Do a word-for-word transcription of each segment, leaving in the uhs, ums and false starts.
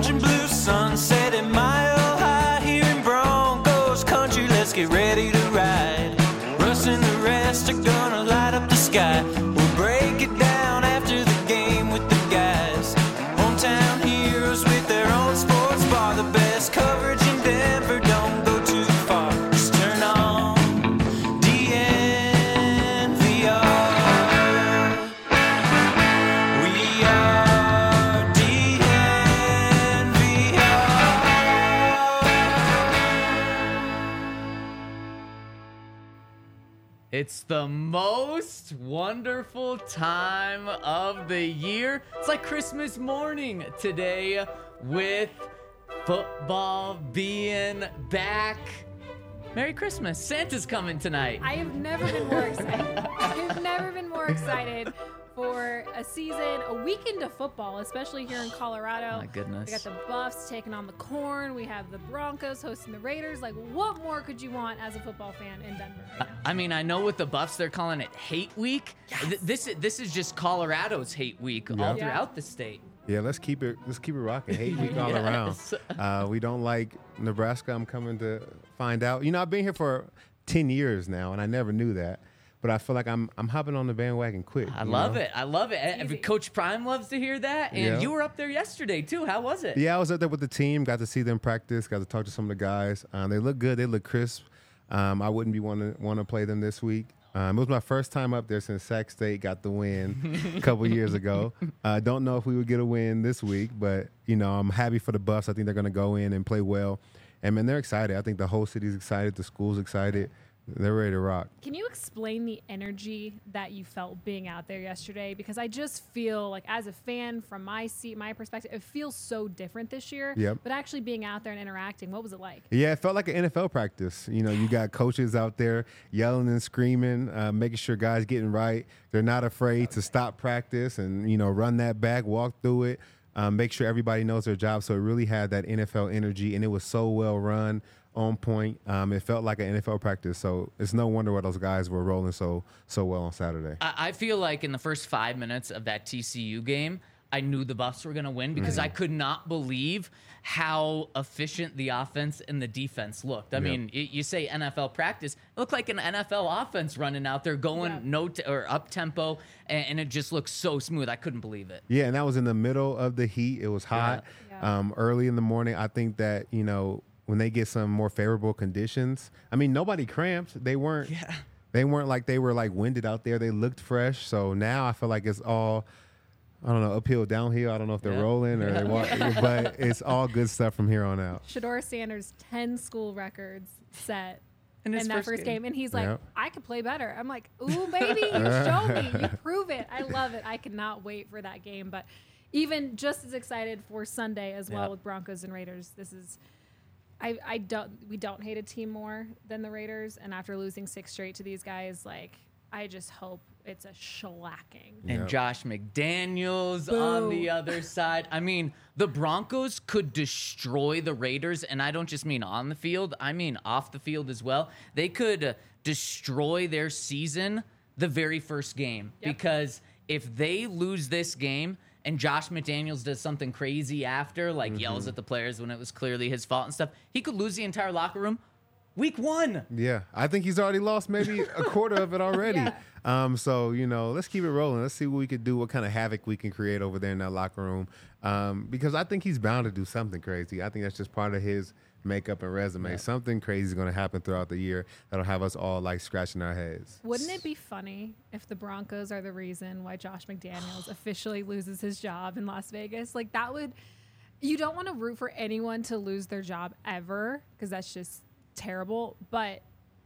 orange and blue sunset at Mile High here in Broncos country. Let's get ready to ride. Russ and the rest are gonna light up the sky. We'll break it down after the game with the guys. Hometown heroes with their own sports bar. The best coverage in Denver, don't go too far. Just turn on D N V R. We are D N V R. It's the most wonderful time of the year. It's like Christmas morning today with football being back. Merry Christmas. Santa's coming tonight. I have never been more excited. I have never been more excited for a season, a weekend of football, especially here in Colorado. My goodness. We got the Buffs taking on the Corn. We have the Broncos hosting the Raiders. Like, what more could you want as a football fan in Denver right now? I mean, I know with the Buffs, they're calling it Hate Week. Th- This, this is just Colorado's Hate Week all Yeah. throughout the state. Yeah, let's keep it let's keep it rocking. Hate week all Yes. around. Uh, we don't like Nebraska. I'm coming to find out. You know, I've been here for ten years now, and I never knew that. But I feel like I'm I'm hopping on the bandwagon quick. I you love know? it. I love it. And easy. Coach Prime loves to hear that. And Yeah. you were up there yesterday, too. How was it? Yeah, I was up there with the team. Got to see them practice. Got to talk to some of the guys. Um, they look good. They look crisp. Um, I wouldn't be want to want to play them this week. Um, it was my first time up there since Sac State got the win a couple years ago. I uh, don't know if we would get a win this week, but you know I'm happy for the Buffs. I think they're going to go in and play well, and man, they're excited. I think the whole city's excited. The school's excited. They're ready to rock. Can you explain the energy that you felt being out there yesterday? Because I just feel like, as a fan, from my seat, my perspective, it feels so different this year. Yep. But actually being out there and interacting, what was it like? Yeah, it felt like an N F L practice. You know, you got coaches out there yelling and screaming, uh, making sure guys getting right. They're not afraid to stop practice and, you know, run that back, walk through it, um, make sure everybody knows their job. So it really had that N F L energy, and it was so well run, on point. Um, it felt like an N F L practice. So it's no wonder why those guys were rolling so so well on Saturday. I I feel like in the first five minutes of that T C U game, I knew the Buffs were going to win because I could not believe how efficient the offense and the defense looked. I Yep. mean, y- you say N F L practice, it looked like an N F L offense running out there, going Yeah. no t- or up tempo, and, and it just looked so smooth. I couldn't believe it. Yeah, and that was in the middle of the heat. It was hot Yeah. um, early in the morning. I think that, you know, when they get some more favorable conditions, I mean, nobody cramped. They weren't. Yeah. They weren't like they were like winded out there. They looked fresh. So now I feel like it's all, I don't know, uphill, downhill. I don't know if they're Yeah. rolling or they walk, but it's all good stuff from here on out. Shador Sanders, ten school records set In in, his that first first, game. game. And he's like, Yep. I could play better. I'm like, ooh, baby, you show me. You prove it. I love it. I cannot wait for that game. But even just as excited for Sunday as well Yep. with Broncos and Raiders. This is, I, I don't, we don't hate a team more than the Raiders. And after losing six straight to these guys, like, I just hope it's a shellacking. And Yep. Josh McDaniels on Boo. the other side. I mean, the Broncos could destroy the Raiders, and I don't just mean on the field, I mean off the field as well. They could uh, destroy their season the very first game Yep. because if they lose this game and Josh McDaniels does something crazy after, like Mm-hmm. yells at the players when it was clearly his fault and stuff, he could lose the entire locker room week one. Yeah, I think he's already lost maybe a quarter of it already. Yeah. Um, so, you know, let's keep it rolling. Let's see what we could do, what kind of havoc we can create over there in that locker room. Um, because I think he's bound to do something crazy. I think that's just part of his makeup and resume. Yeah. Something crazy is going to happen throughout the year that'll have us all like scratching our heads. Wouldn't it be funny if the Broncos are the reason why Josh McDaniels officially loses his job in Las Vegas? Like, that would, you don't want to root for anyone to lose their job ever, because that's just terrible. But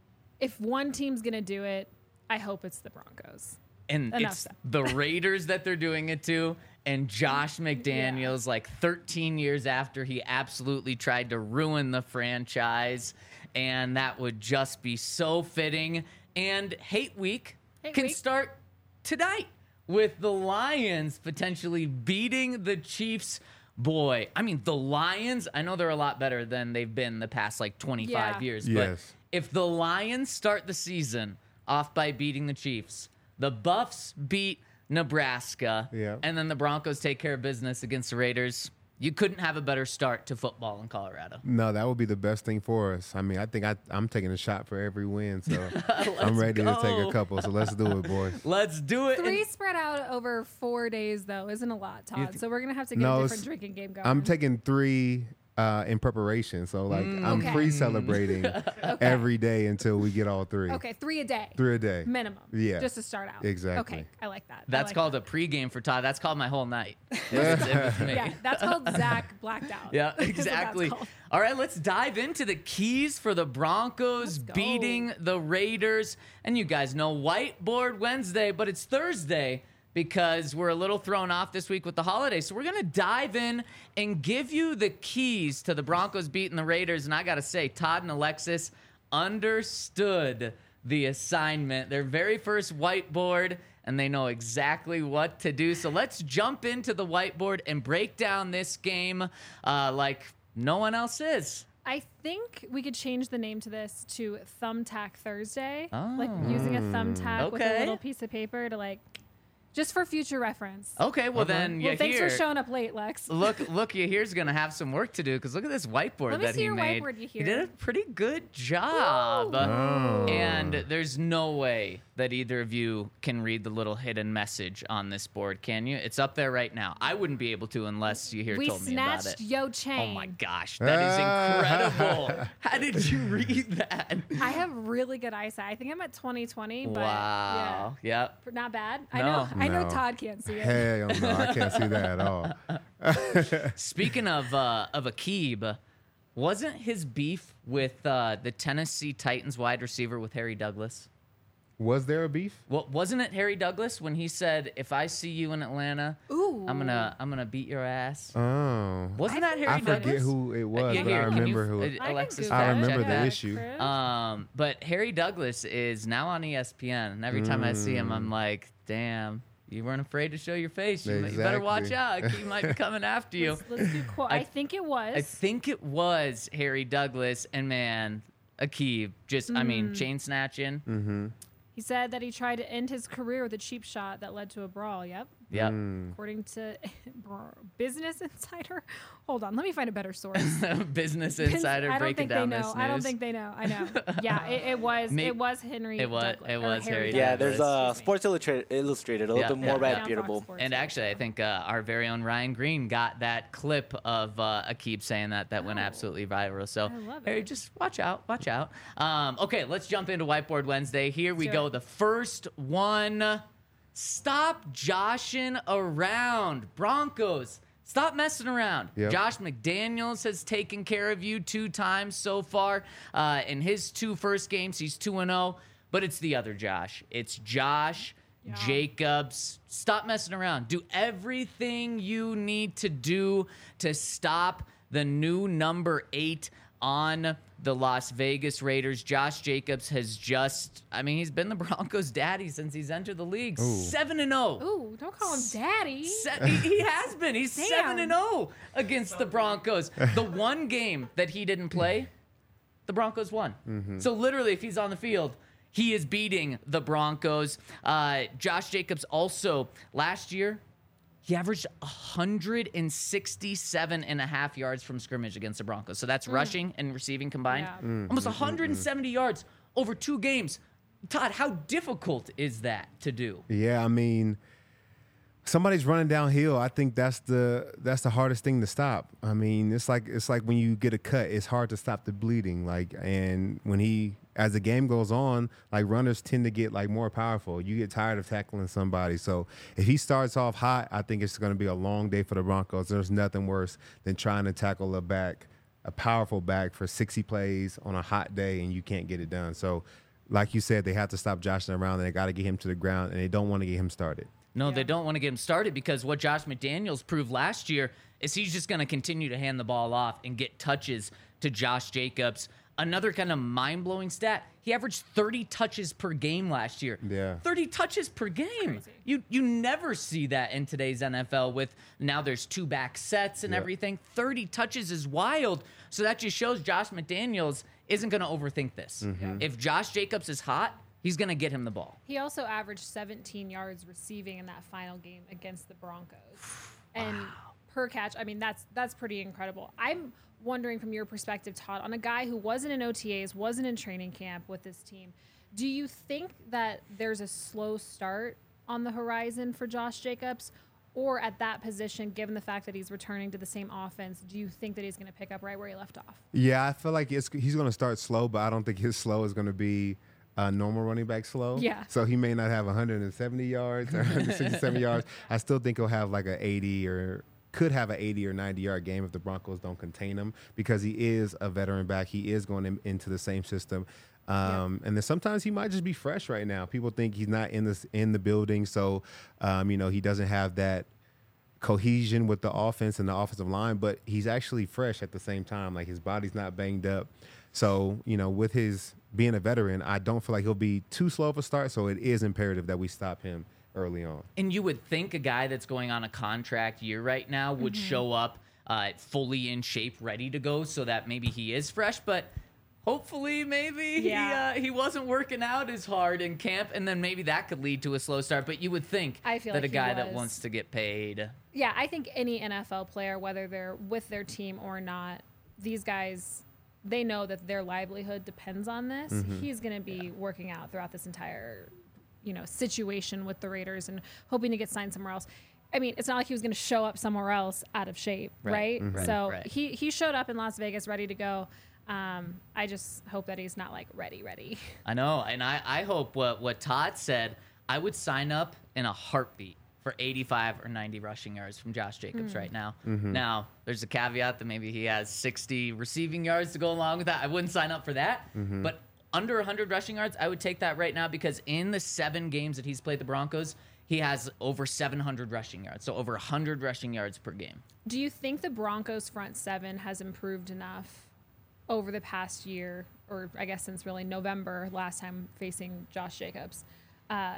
if one team's going to do it, I hope it's the Broncos. And Enough it's said. the Raiders that they're doing it to. And Josh McDaniels, like thirteen years after he absolutely tried to ruin the franchise. And that would just be so fitting. And Hate Week Hate can Week. start tonight with the Lions potentially beating the Chiefs. Boy, I mean, the Lions, I know they're a lot better than they've been the past like twenty-five Yeah. years. Yes. But if the Lions start the season off by beating the Chiefs, the Buffs beat Nebraska, Yeah. and then the Broncos take care of business against the Raiders, You couldn't have a better start to football in Colorado. No, that would be the best thing for us. I mean, I think I, I'm taking a shot for every win, so I'm ready go. to take a couple. So let's do it, boys. Let's do it. Three And- spread out over four days, though, isn't a lot, Todd. th- so we're going to have to get No, a it's- different drinking game going. I'm taking three uh, in preparation, so like I'm Okay. pre-celebrating every day until we get all three. Okay, three a day. Three a day. Minimum. Yeah. Just to start out. Exactly. Okay, I like that. I That's like called that. a pregame for Todd. That's called my whole night. It's in with me. Yeah, that's called Zach blacked out. Yeah, is what that's exactly. called. All right, let's dive into the keys for the Broncos Let's go. beating the Raiders. And you guys know Whiteboard Wednesday, but it's Thursday because we're a little thrown off this week with the holiday. So we're going to dive in and give you the keys to the Broncos beating the Raiders. And I got to say, Todd and Alexis understood the assignment. Their very first whiteboard, and they know exactly what to do. So let's jump into the whiteboard and break down this game uh, like no one else is. I think we could change the name to this to Thumbtack Thursday. Oh. Like using a thumbtack with a Okay. little piece of paper to like, just for future reference. Okay, well then you well, thanks hear. for showing up late, Lex. Look, look, you here's gonna have some work to do because look at this whiteboard Let me that see he your made. whiteboard, you He did hear. a pretty good job. Oh. And there's no way that either of you can read the little hidden message on this board, can you? It's up there right now. I wouldn't be able to unless you here We told me about snatched it. Yo Chang. Oh my gosh, that is incredible. How did you read that? I have really good eyesight. I think I'm at twenty twenty, but Wow. Yep. yeah, not bad. I No. know. I know No. Todd can't see it. Hell no, I can't see that at all. Speaking of uh, of Akib, wasn't his beef with uh, the Tennessee Titans wide receiver with Harry Douglas? Was there a beef? Well, wasn't it Harry Douglas when he said, "If I see you in Atlanta, Ooh. I'm gonna I'm gonna beat your ass"? Oh, Wasn't that Harry I Douglas? forget who it was, Yeah, but here, I can you- remember who. uh, It, I can Alexis, Google I fact remember check the that. issue. Chris. Um, but Harry Douglas is now on E S P N, and every time I see him, I'm like, "Damn, you weren't afraid to show your face. You, you better watch Exactly. out. He might be coming after you." Let's, let's do quote. I, I- think it was. I think it was Harry Douglas, and man, Akib just, I mean, Mm. chain snatching. Mm-hmm. He said that he tried to end his career with a cheap shot that led to a brawl. Yep. Yep. According to Business Insider. Hold on. Let me find a better source. Business Pins- Insider I don't breaking think down they know. this news. I don't think they know. I know. Yeah, it, it was. May- it was Henry. It was- Douglas, it or was Harry Douglas. Yeah, there's uh, Excuse me. Sports Illustrated, Illustrated a little Yeah, bit more yeah, yeah. reputable. Fox Sports, And yeah. actually, I think uh, our very own Ryan Green got that clip of uh, Akib saying that that went Oh. absolutely viral. So, I love Harry, it. just watch out, watch out. Um, okay, let's jump into Whiteboard Wednesday. Here we do go. it. The first one. Stop joshing around, Broncos. Stop messing around. Yep. Josh McDaniels has taken care of you two times so far. Uh, in his two first games, he's two and oh. But it's the other Josh. It's Josh Yeah. Jacobs. Stop messing around. Do everything you need to do to stop the new number eight on the Las Vegas Raiders. Josh Jacobs has just, I mean, he's been the Broncos' daddy since he's entered the league. seven and oh. Ooh, don't call him daddy. Se- he, he has been. He's Damn. seven and oh against the Broncos. The one game that he didn't play, the Broncos won. So literally, if he's on the field, he is beating the Broncos. Uh, Josh Jacobs also last year, he averaged one hundred sixty-seven and a half yards from scrimmage against the Broncos. So that's rushing and receiving combined. Yeah. Almost one hundred seventy yards over two games. Todd, how difficult is that to do? Yeah, I mean, somebody's running downhill. I think that's the that's the hardest thing to stop. I mean, it's like it's like when you get a cut, it's hard to stop the bleeding. Like, and when he as the game goes on, like runners tend to get like more powerful. You get tired of tackling somebody. So if he starts off hot, I think it's going to be a long day for the Broncos. There's nothing worse than trying to tackle a back, a powerful back for sixty plays on a hot day, and you can't get it done. So, like you said, they have to stop joshing around, and they got to get him to the ground, and they don't want to get him started. No, Yeah. they don't want to get him started because what Josh McDaniels proved last year is he's just going to continue to hand the ball off and get touches to Josh Jacobs. Another kind of mind-blowing stat, he averaged thirty touches per game last year. Yeah. thirty touches per game. Crazy. You you never see that in today's N F L with now there's two back sets and Yeah. everything. thirty touches is wild. So that just shows Josh McDaniels isn't going to overthink this. If Josh Jacobs is hot, he's going to get him the ball. He also averaged seventeen yards receiving in that final game against the Broncos. And per catch. I mean, that's that's pretty incredible. I'm wondering from your perspective, Todd, on a guy who wasn't in O T As, wasn't in training camp with this team, do you think that there's a slow start on the horizon for Josh Jacobs? Or at that position, given the fact that he's returning to the same offense, do you think that he's going to pick up right where he left off? Yeah, I feel like it's, he's going to start slow, but I don't think his slow is going to be a normal running back slow. Yeah. So he may not have one hundred seventy yards or one hundred sixty-seven yards. I still think he'll have like an eighty or could have an eighty or ninety yard game if the Broncos don't contain him, because he is a veteran back. He is going in, into the same system. Um, yeah. And then sometimes he might just be fresh right now. People think he's not in this in the building, so um, you know, he doesn't have that cohesion with the offense and the offensive line, but he's actually fresh at the same time. Like, his body's not banged up. So, you know, with his being a veteran, I don't feel like he'll be too slow of a start. So it is imperative that we stop him early on. And you would think a guy that's going on a contract year right now would mm-hmm. show up uh, fully in shape, ready to go, so that maybe he is fresh, but hopefully, maybe yeah. he uh, he wasn't working out as hard in camp, and then maybe that could lead to a slow start. But you would think I feel that like a guy he that was. wants to get paid. Yeah, I think any N F L player, whether they're with their team or not, these guys, they know that their livelihood depends on this. Mm-hmm. He's going to be working out throughout this entire, you know, situation with the Raiders and hoping to get signed somewhere else. I mean, it's not like he was going to show up somewhere else out of shape, right? right? Mm-hmm. So right. he he showed up in Las Vegas ready to go. Um, I just hope that he's not like ready, ready. I know, and I, I hope what, what Todd said, I would sign up in a heartbeat for eighty-five or ninety rushing yards from Josh Jacobs mm. right now. Mm-hmm. Now, there's a caveat that maybe he has sixty receiving yards to go along with that. I wouldn't sign up for that, mm-hmm. but under one hundred rushing yards, I would take that right now, because in the seven games that he's played the Broncos, he has over seven hundred rushing yards, so over one hundred rushing yards per game. Do you think the Broncos front seven has improved enough over the past year, or I guess since really November last time facing Josh Jacobs, uh,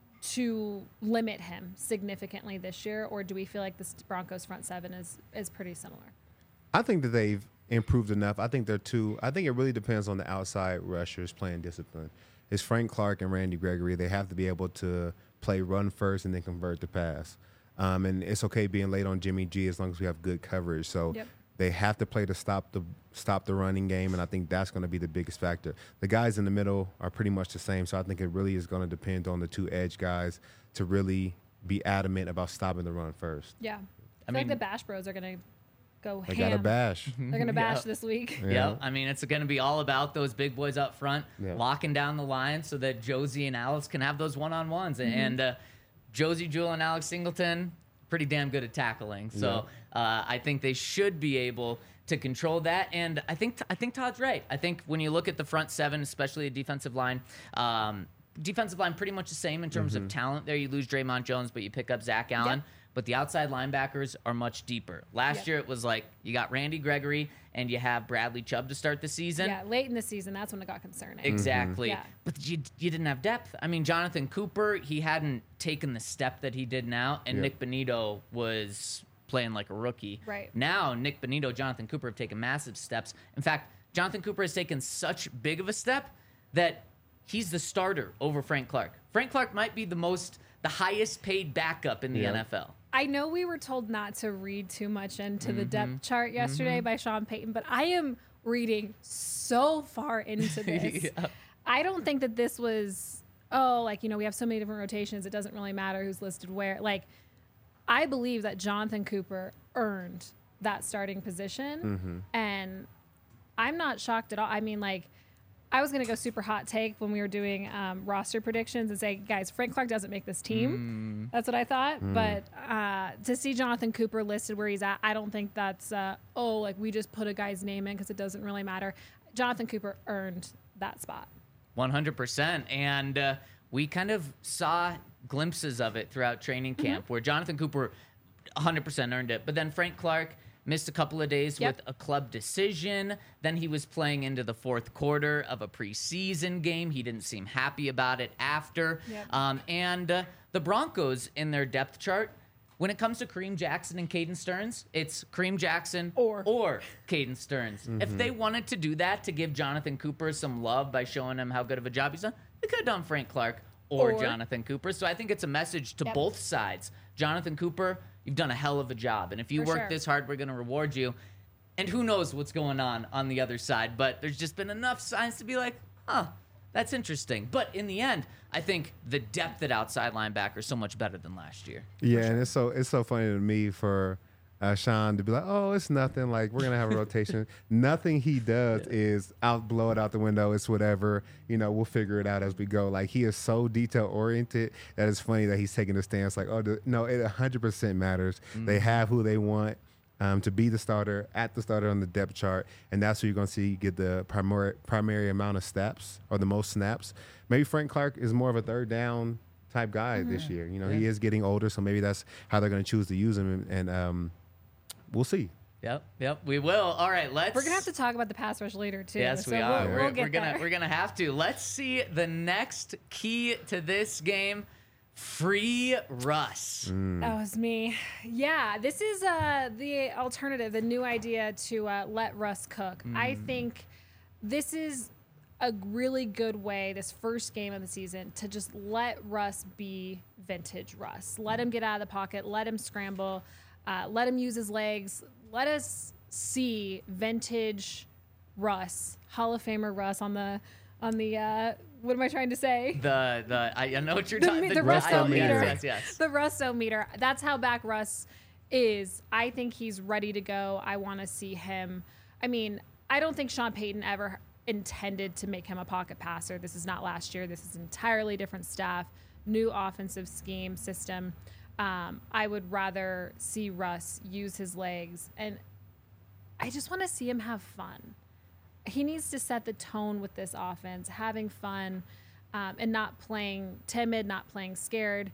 to limit him significantly this year? Or do we feel like this Broncos front seven is, is pretty similar? I think that they've improved enough. I think they're two. I think it really depends on the outside rushers playing discipline. It's Frank Clark and Randy Gregory. They have to be able to play run first and then convert the pass. Um, and it's okay being late on Jimmy G as long as we have good coverage. So yep. they have to play to stop the stop the running game, and I think that's going to be the biggest factor. The guys in the middle are pretty much the same, so I think it really is going to depend on the two edge guys to really be adamant about stopping the run first. Yeah. I, I feel mean, like the Bash Bros are going to go they ham. They got a bash. They're going to bash yep. this week. Yeah. Yep. I mean, it's going to be all about those big boys up front, yep. locking down the line so that Josie and Alex can have those one-on-ones. Mm-hmm. And uh, Josie Jewell and Alex Singleton, pretty damn good at tackling. So yep. uh, I think they should be able to control that. And I think I think Todd's right. I think when you look at the front seven, especially a defensive line, um, defensive line pretty much the same in terms mm-hmm. of talent there. You lose Draymond Jones, but you pick up Zach Allen. Yep. But the outside linebackers are much deeper. Last yep. year it was like you got Randy Gregory and you have Bradley Chubb to start the season. Yeah, late in the season, that's when it got concerning. Exactly. Mm-hmm. Yeah. But you, you didn't have depth. I mean, Jonathan Cooper, he hadn't taken the step that he did now, and yep. Nick Bonito was playing like a rookie. Right. Now, Nick Bonito, Jonathan Cooper have taken massive steps. In fact, Jonathan Cooper has taken such big of a step that he's the starter over Frank Clark. Frank Clark might be the most, the highest paid backup in the yeah. N F L. I know we were told not to read too much into mm-hmm. the depth chart yesterday mm-hmm. by Sean Payton, but I am reading so far into this. yeah. I don't think that this was, oh, like, you know, we have so many different rotations, it doesn't really matter who's listed where. Like, I believe that Jonathan Cooper earned that starting position, mm-hmm. and I'm not shocked at all. I mean, like, I was going to go super hot take when we were doing um, roster predictions and say, guys, Frank Clark doesn't make this team. Mm. That's what I thought. Mm. But uh, to see Jonathan Cooper listed where he's at, I don't think that's, uh, oh, like we just put a guy's name in because it doesn't really matter. Jonathan Cooper earned that spot. one hundred percent. And uh, we kind of saw glimpses of it throughout training camp mm-hmm. where Jonathan Cooper one hundred percent earned it. But then Frank Clark missed a couple of days yep. with a club decision. Then he was playing into the fourth quarter of a preseason game. He didn't seem happy about it after. Yep. Um, and uh, the Broncos in their depth chart, when it comes to Kareem Jackson and Caden Stearns, it's Kareem Jackson or, or Caden Stearns. Mm-hmm. If they wanted to do that to give Jonathan Cooper some love by showing him how good of a job he's done, they could have done Frank Clark or, Or- Jonathan Cooper. So I think it's a message to Yep. both sides. Jonathan Cooper, you've done a hell of a job. And if you For work sure. this hard, we're going to reward you. And who knows what's going on on the other side. But there's just been enough signs to be like, huh, that's interesting. But in the end, I think the depth at outside linebacker is so much better than last year. Yeah, and it's so it's so funny to me for uh, Sean to be like, oh, it's nothing. Like, we're gonna have a rotation. Nothing he does is out blow it out the window. It's whatever. You know, we'll figure it out as we go. Like, he is so detail oriented that it's funny that he's taking a stance like, oh, the, no, it one hundred percent matters. Mm-hmm. They have who they want. Um, to be the starter at the starter on the depth chart, and that's who you're going to see get the primary primary amount of snaps or the most snaps. Maybe Frank Clark is more of a third down type guy Mm-hmm. this year. You know, Yeah. he is getting older, so maybe that's how they're going to choose to use him, and, and um, we'll see. Yep, yep, we will. All right, let's. We're gonna have to talk about the pass rush later too. Yes, so we we'll, are. We'll, we're, get we're gonna there. we're gonna have to. Let's see the next key to this game. Free Russ. That was me. Yeah, this is uh, the alternative, the new idea to uh, let Russ cook. I think this is a really good way, this first game of the season, to just let Russ be vintage Russ. Let him get out of the pocket. Let him scramble. Uh, let him use his legs. Let us see vintage Russ, Hall of Famer Russ on the on the. Uh, what am I trying to say? The the I, I know what you're The, talking. me- The, the I- Russo meter. meter. Yes, yes, yes. The Russo meter. That's how back Russ is. I think he's ready to go. I want to see him. I mean, I don't think Sean Payton ever intended to make him a pocket passer. This is not last year. This is entirely different staff, new offensive scheme system. Um, I would rather see Russ use his legs, and I just want to see him have fun. He needs to set the tone with this offense, having fun, um, and not playing timid, not playing scared.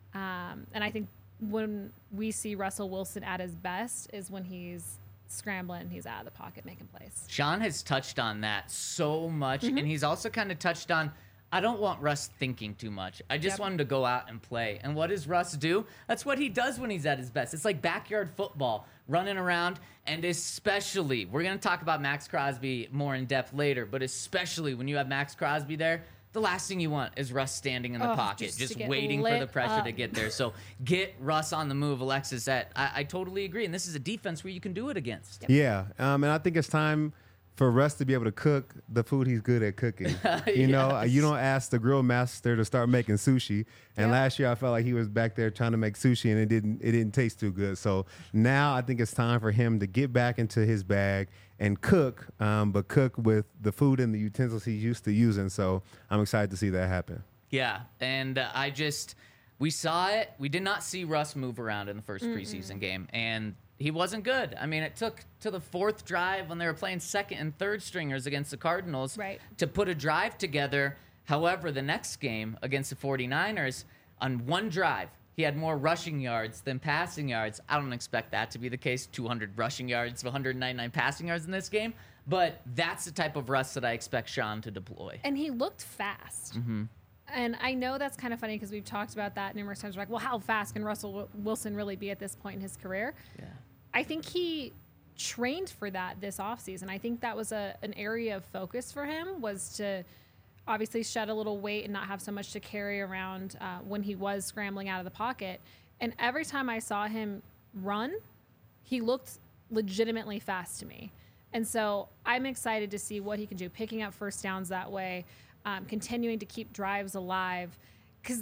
Um, and I think when we see Russell Wilson at his best is when he's scrambling, he's out of the pocket making plays. Sean has touched on that so much, Mm-hmm. and he's also kind of touched on. I don't want Russ thinking too much. I just Yep. want him to go out and play. And what does Russ do? That's what he does when he's at his best. It's like backyard football, running around, and especially, we're going to talk about Max Crosby more in depth later, but especially when you have Max Crosby there, the last thing you want is Russ standing in the Oh, pocket, just to just get waiting for lit the pressure to up. get there. So get Russ on the move, Alexis. That I, I totally agree. And this is a defense where you can do it against. Yeah, um, and I think it's time for Russ to be able to cook the food he's good at cooking. You know, Yes. you don't ask the grill master to start making sushi. And Yep. last year, I felt like he was back there trying to make sushi, and it didn't it didn't taste too good. So now I think it's time for him to get back into his bag and cook, um, but cook with the food and the utensils he's used to using. So I'm excited to see that happen. Yeah, and uh, I just we saw it. We did not see Russ move around in the 1st preseason game, and he wasn't good. I mean, it took to the fourth drive when they were playing second and third stringers against the Cardinals Right. to put a drive together. However, the next game against the 49ers, on one drive, he had more rushing yards than passing yards. I don't expect that to be the case. two hundred rushing yards, one hundred ninety-nine passing yards in this game. But that's the type of Russ that I expect Sean to deploy. And he looked fast. Mm-hmm. And I know that's kind of funny because we've talked about that numerous times. We're like, well, how fast can Russell Wi- Wilson really be at this point in his career? Yeah. I think he trained for that this offseason. I think that was a an area of focus for him, was to obviously shed a little weight and not have so much to carry around uh, when he was scrambling out of the pocket. And every time I saw him run, he looked legitimately fast to me. And so I'm excited to see what he can do, picking up first downs that way, um, continuing to keep drives alive. Because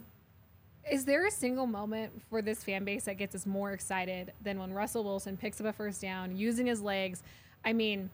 is there a single moment for this fan base that gets us more excited than when Russell Wilson picks up a first down using his legs? I mean,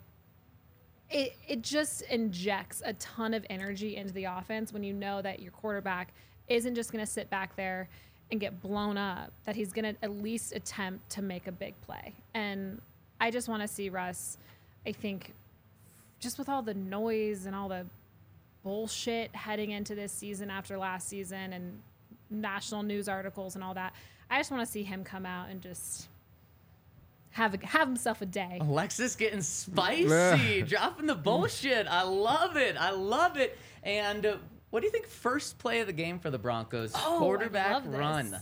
it it just injects a ton of energy into the offense when you know that your quarterback isn't just going to sit back there and get blown up, that he's going to at least attempt to make a big play. And I just want to see Russ, I think, just with all the noise and all the bullshit heading into this season after last season and national news articles and all that, I just want to see him come out and just have a, have himself a day. Alexis getting spicy, dropping the bullshit. I love it. I love it. And uh, what do you think first play of the game for the Broncos? Oh, I Quarterback love this. run.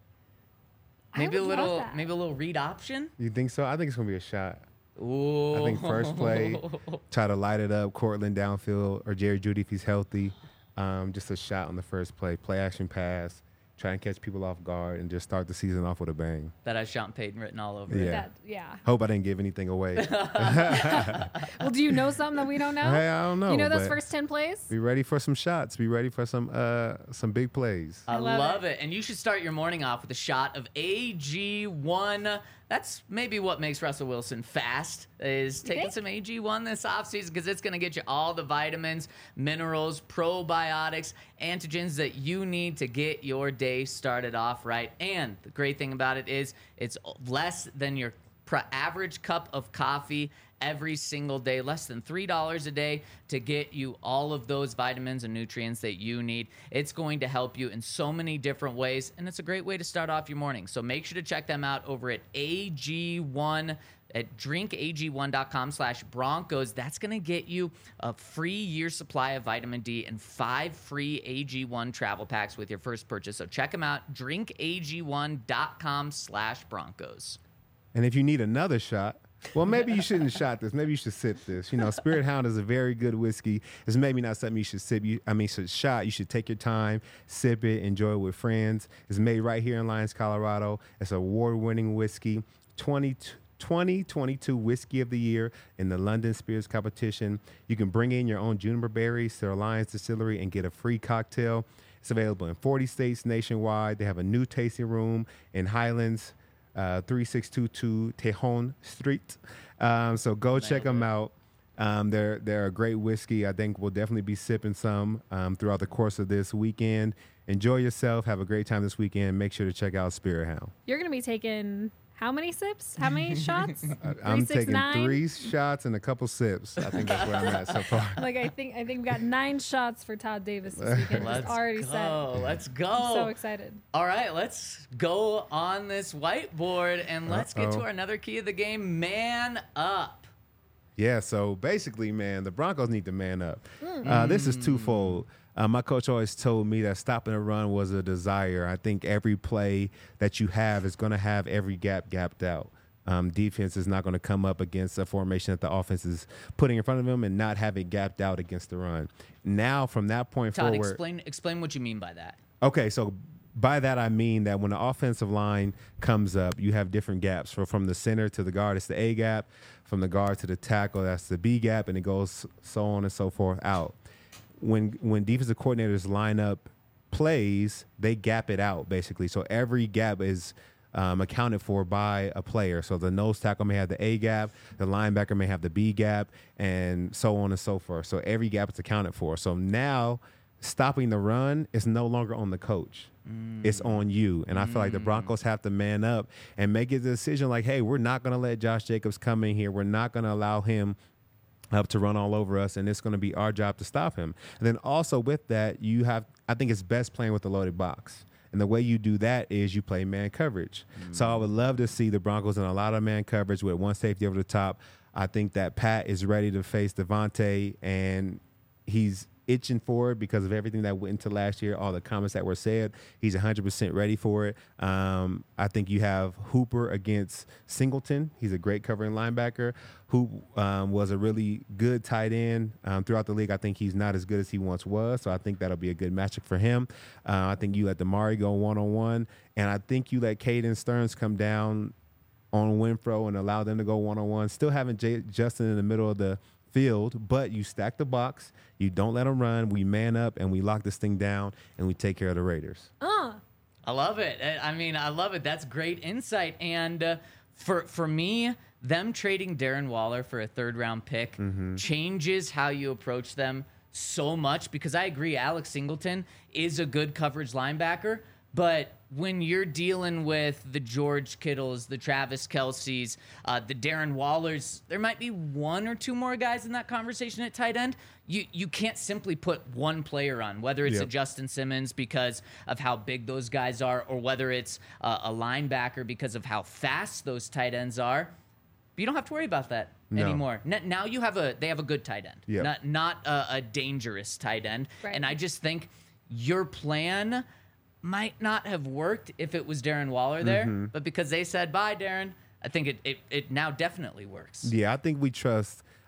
I Maybe a would love little that. maybe a little read option. You think so? I think it's going to be a shot. Ooh. I think first play, try to light it up, Cortland downfield, or Jerry Jeudy if he's healthy. Um, just a shot on the first play, play action pass, try and catch people off guard, and just start the season off with a bang. That has Sean Payton written all over Yeah. it. That, yeah. Hope I didn't give anything away. Well, do you know something that we don't know? Hey, I don't know. You know those but first ten plays? Be ready for some shots. Be ready for some uh some big plays. I, I love love it. And you should start your morning off with a shot of A G one. That's maybe what makes Russell Wilson fast, is taking think? some A G one this offseason, because it's going to get you all the vitamins, minerals, probiotics, antigens that you need to get your day started off right. And the great thing about it is it's less than your pr- average cup of coffee every single day, less than three dollars a day to get you all of those vitamins and nutrients that you need. It's going to help you in so many different ways, and it's a great way to start off your morning. So make sure to check them out over at A G one at drink A G one dot com slash Broncos. That's going to get you a free year supply of vitamin D and five free A G one travel packs with your first purchase. So check them out, drink A G one dot com slash Broncos. And if you need another shot, well, maybe you shouldn't shot this. Maybe you should sip this. You know, Spirit Hound is a very good whiskey. It's maybe not something you should sip. You, I mean, should shot. You should take your time, sip it, enjoy it with friends. It's made right here in Lyons, Colorado. It's an award-winning whiskey. twenty twenty-two Whiskey of the Year in the London Spirits Competition. You can bring in your own juniper berries to the Lyons Distillery and get a free cocktail. It's available in forty states nationwide. They have a new tasting room in Highlands, Uh, three six two two Tejon Street. Um, so go check them out. Um, they're they're a great whiskey. I think we'll definitely be sipping some um, throughout the course of this weekend. Enjoy yourself. Have a great time this weekend. Make sure to check out Spirit Hound. You're going to be taking how many sips? How many shots? I, I'm six, taking nine? three shots and a couple sips. I think that's where I'm at so far. Like I think I think we got nine shots for Todd Davis this weekend. Let's It's already go. set. Let's go. I'm so excited. All right, let's go on this whiteboard and let's get to Uh-oh. our another key of the game, man up. Yeah, so basically, man, the Broncos need to man up. Uh, this is twofold. Uh, my coach always told me that stopping a run was a desire. I think every play that you have is going to have every gap gapped out. Um, defense is not going to come up against a formation that the offense is putting in front of them and not have it gapped out against the run. Now, from that point Todd, forward, explain explain what you mean by that. okay, so by that I mean that when the offensive line comes up, you have different gaps. So from the center to the guard, it's the A gap. From the guard to the tackle, that's the B gap, and it goes so on and so forth out. When when defensive coordinators line up plays, they gap it out basically. So every gap is um, accounted for by a player. So the nose tackle may have the A gap, the linebacker may have the B gap, and so on and so forth. So every gap is accounted for. So now stopping the run is no longer on the coach. Mm. It's on you. And I feel like the Broncos have to man up and make a decision like, hey, we're not going to let Josh Jacobs come in here. We're not going to allow him up to run all over us, and it's going to be our job to stop him. And then also with that, you have, I think it's best playing with the loaded box. And the way you do that is you play man coverage. Mm. So I would love to see the Broncos in a lot of man coverage with one safety over the top. I think that Pat is ready to face Devontae, and he's itching for it because of everything that went into last year, all the comments that were said. He's one hundred percent ready for it. Um, I think you have Hooper against Singleton. He's a great covering linebacker who um, was a really good tight end um, throughout the league. I think he's not as good as he once was, so I think that'll be a good matchup for him. Uh, I think you let Damari go one-on-one, and I think you let Caden Stearns come down on Winfro and allow them to go one-on-one. Still having J- Justin in the middle of the field, but you stack the box, you don't let them run, we man up, and we lock this thing down, and we take care of the Raiders. Uh. I love it. I I mean, I love it. That's great insight. And uh, for for me, them trading Darren Waller for a third round pick mm-hmm. changes how you approach them so much, because I agree, Alex Singleton is a good coverage linebacker, but when you're dealing with the George Kittles, the Travis Kelce's, uh, the Darren Wallers, there might be one or two more guys in that conversation at tight end. You you can't simply put one player on, whether it's yep. a Justin Simmons because of how big those guys are, or whether it's uh, a linebacker because of how fast those tight ends are. But you don't have to worry about that no. anymore. N- now you have a they have a good tight end, yep. not not a, a dangerous tight end. Right. And I just think your plan might not have worked if it was Darren Waller there, mm-hmm. but because they said bye, Darren, I think it, it it now definitely works. Yeah, I think we trust.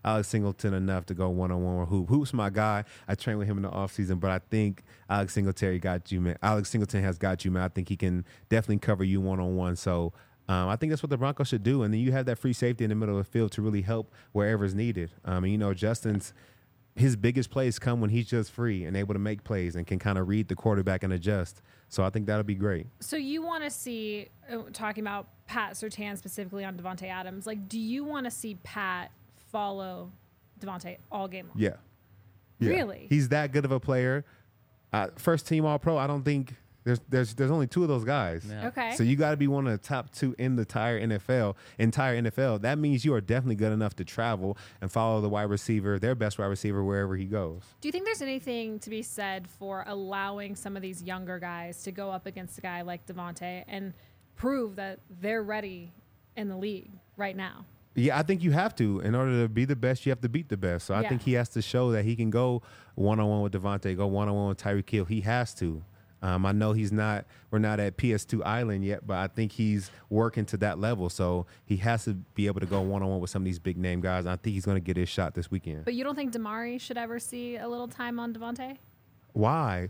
Alex Singleton enough to go one-on-one with Hoop. Hoop's my guy. I trained with him in the offseason, but I think Alex Singletary got you, man. Alex Singleton has got you, man. I think he can definitely cover you one-on-one. So um, I think that's what the Broncos should do. And then you have that free safety in the middle of the field to really help wherever is needed. Um, and, you know, Justin's his biggest plays come when he's just free and able to make plays and can kind of read the quarterback and adjust. So I think that'll be great. So you want to see, uh, talking about Pat Surtain specifically on Devontae Adams, like, do you want to see Pat follow Devontae all game long? Yeah. yeah. Really? He's that good of a player. Uh, first team All-Pro, I don't think there's there's there's only two of those guys. Yeah. Okay. So you got to be one of the top two in the entire N F L. Entire N F L. That means you are definitely good enough to travel and follow the wide receiver, their best wide receiver, wherever he goes. Do you think there's anything to be said for allowing some of these younger guys to go up against a guy like Devontae and prove that they're ready in the league right now? Yeah, I think you have to. In order to be the best, you have to beat the best. So I Yeah. think he has to show that he can go one-on-one with Devontae, go one-on-one with Tyreek Hill. He has to. Um, I know he's not. We're not at P S two Island yet, but I think he's working to that level. So he has to be able to go one-on-one with some of these big-name guys. I think he's going to get his shot this weekend. But you don't think Damari should ever see a little time on Devontae? Why?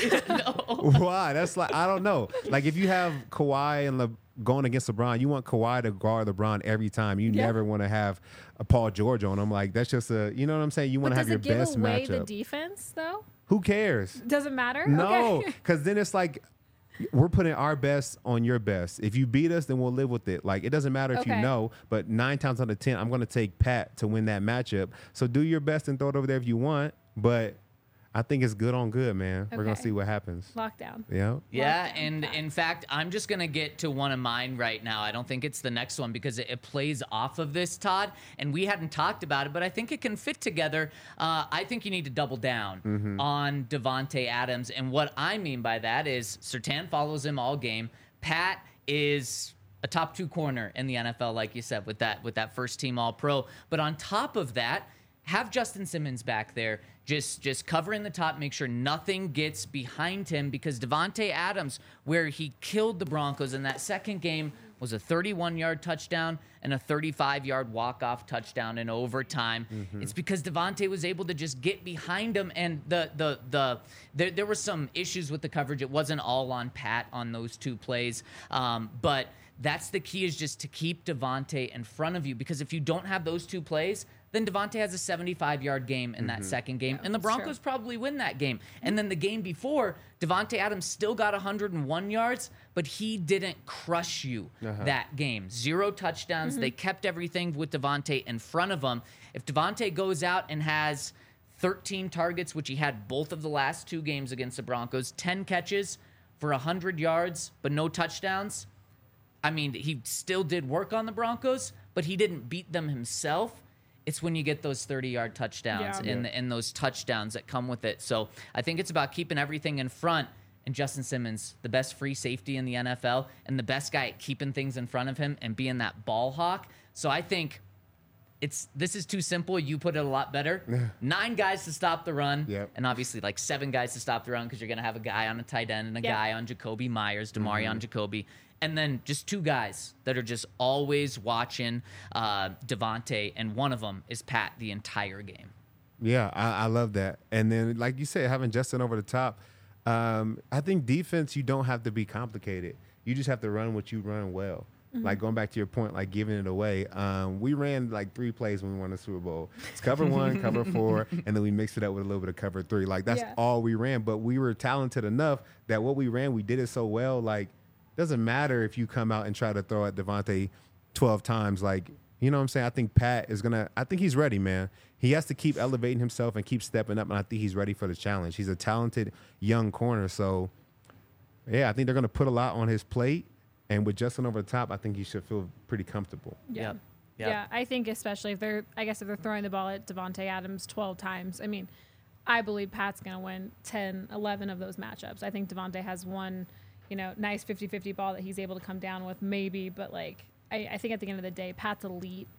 no. Why? That's like, I don't know. Like, if you have Kawhi and Le- going against LeBron, you want Kawhi to guard LeBron every time. You Yeah. never want to have a Paul George on him. Like, that's just a, you know what I'm saying? You want But to have does your it give best away matchup. the defense, though? Who cares? Does it matter? No, Okay. because then it's like we're putting our best on your best. If you beat us, then we'll live with it. Like, it doesn't matter if Okay. you know, but nine times out of ten, I'm going to take Pat to win that matchup. So do your best and throw it over there if you want. But I think it's good on good, man. We're going to Okay. see what happens. Lockdown. Yeah. Yeah, Lockdown and Pat. in fact, I'm just going to get to one of mine right now. I don't think it's the next one because it, it plays off of this, Todd, and we hadn't talked about it, but I think it can fit together. Uh, I think you need to double down Mm-hmm. on Devontae Adams, and what I mean by that is Surtain follows him all game. Pat is a top two corner in the N F L, like you said, with that with that first team All-Pro. But on top of that, have Justin Simmons back there just just covering the top, make sure nothing gets behind him, because Devontae Adams, where he killed the Broncos in that second game, was a thirty-one-yard touchdown and a thirty-five-yard walk-off touchdown in overtime. Mm-hmm. It's because Devontae was able to just get behind him, and the the the there, there were some issues with the coverage. It wasn't all on Pat on those two plays, um, but that's the key, is just to keep Devontae in front of you, because if you don't have those two plays, then Devontae has a seventy-five-yard game in that second game, Yeah, and the that's Broncos true. probably win that game. And then the game before, Devontae Adams still got one hundred one yards, but he didn't crush you that game. Zero touchdowns. They kept everything with Devontae in front of him. If Devontae goes out and has thirteen targets, which he had both of the last two games against the Broncos, ten catches for one hundred yards, but no touchdowns, I mean, he still did work on the Broncos, but he didn't beat them himself. It's when you get those thirty-yard touchdowns Yeah. and, and those touchdowns that come with it. So I think it's about keeping everything in front. And Justin Simmons, the best free safety in the N F L and the best guy at keeping things in front of him and being that ball hawk. So I think it's this is too simple. You put it a lot better. Nine guys to stop the run. Yep. And obviously like seven guys to stop the run, because you're going to have a guy on a tight end and a Yep. guy on Jacoby Myers, Damari on Jacoby. And then just two guys that are just always watching uh, Devontae, and one of them is Pat the entire game. Yeah, I, I love that. And then, like you said, having Justin over the top, um, I think defense, you don't have to be complicated. You just have to run what you run well. Like, going back to your point, like giving it away. Um, we ran like three plays when we won the Super Bowl. It's cover one, cover four, and then we mixed it up with a little bit of cover three. Like, that's Yeah. all we ran. But we were talented enough that what we ran, we did it so well. Like, doesn't matter if you come out and try to throw at Devontae twelve times. Like, you know what I'm saying? I think Pat is going to – I think he's ready, man. He has to keep elevating himself and keep stepping up, and I think he's ready for the challenge. He's a talented young corner. So, yeah, I think they're going to put a lot on his plate. And with Justin over the top, I think he should feel pretty comfortable. Yeah. Yep. Yep. Yeah, I think especially if they're, I guess if they're throwing the ball at Devontae Adams twelve times, I mean, I believe Pat's going to win ten, eleven of those matchups. I think Devontae has one, you know, nice fifty-fifty ball that he's able to come down with maybe, but like, I, I think at the end of the day, Pat's elite.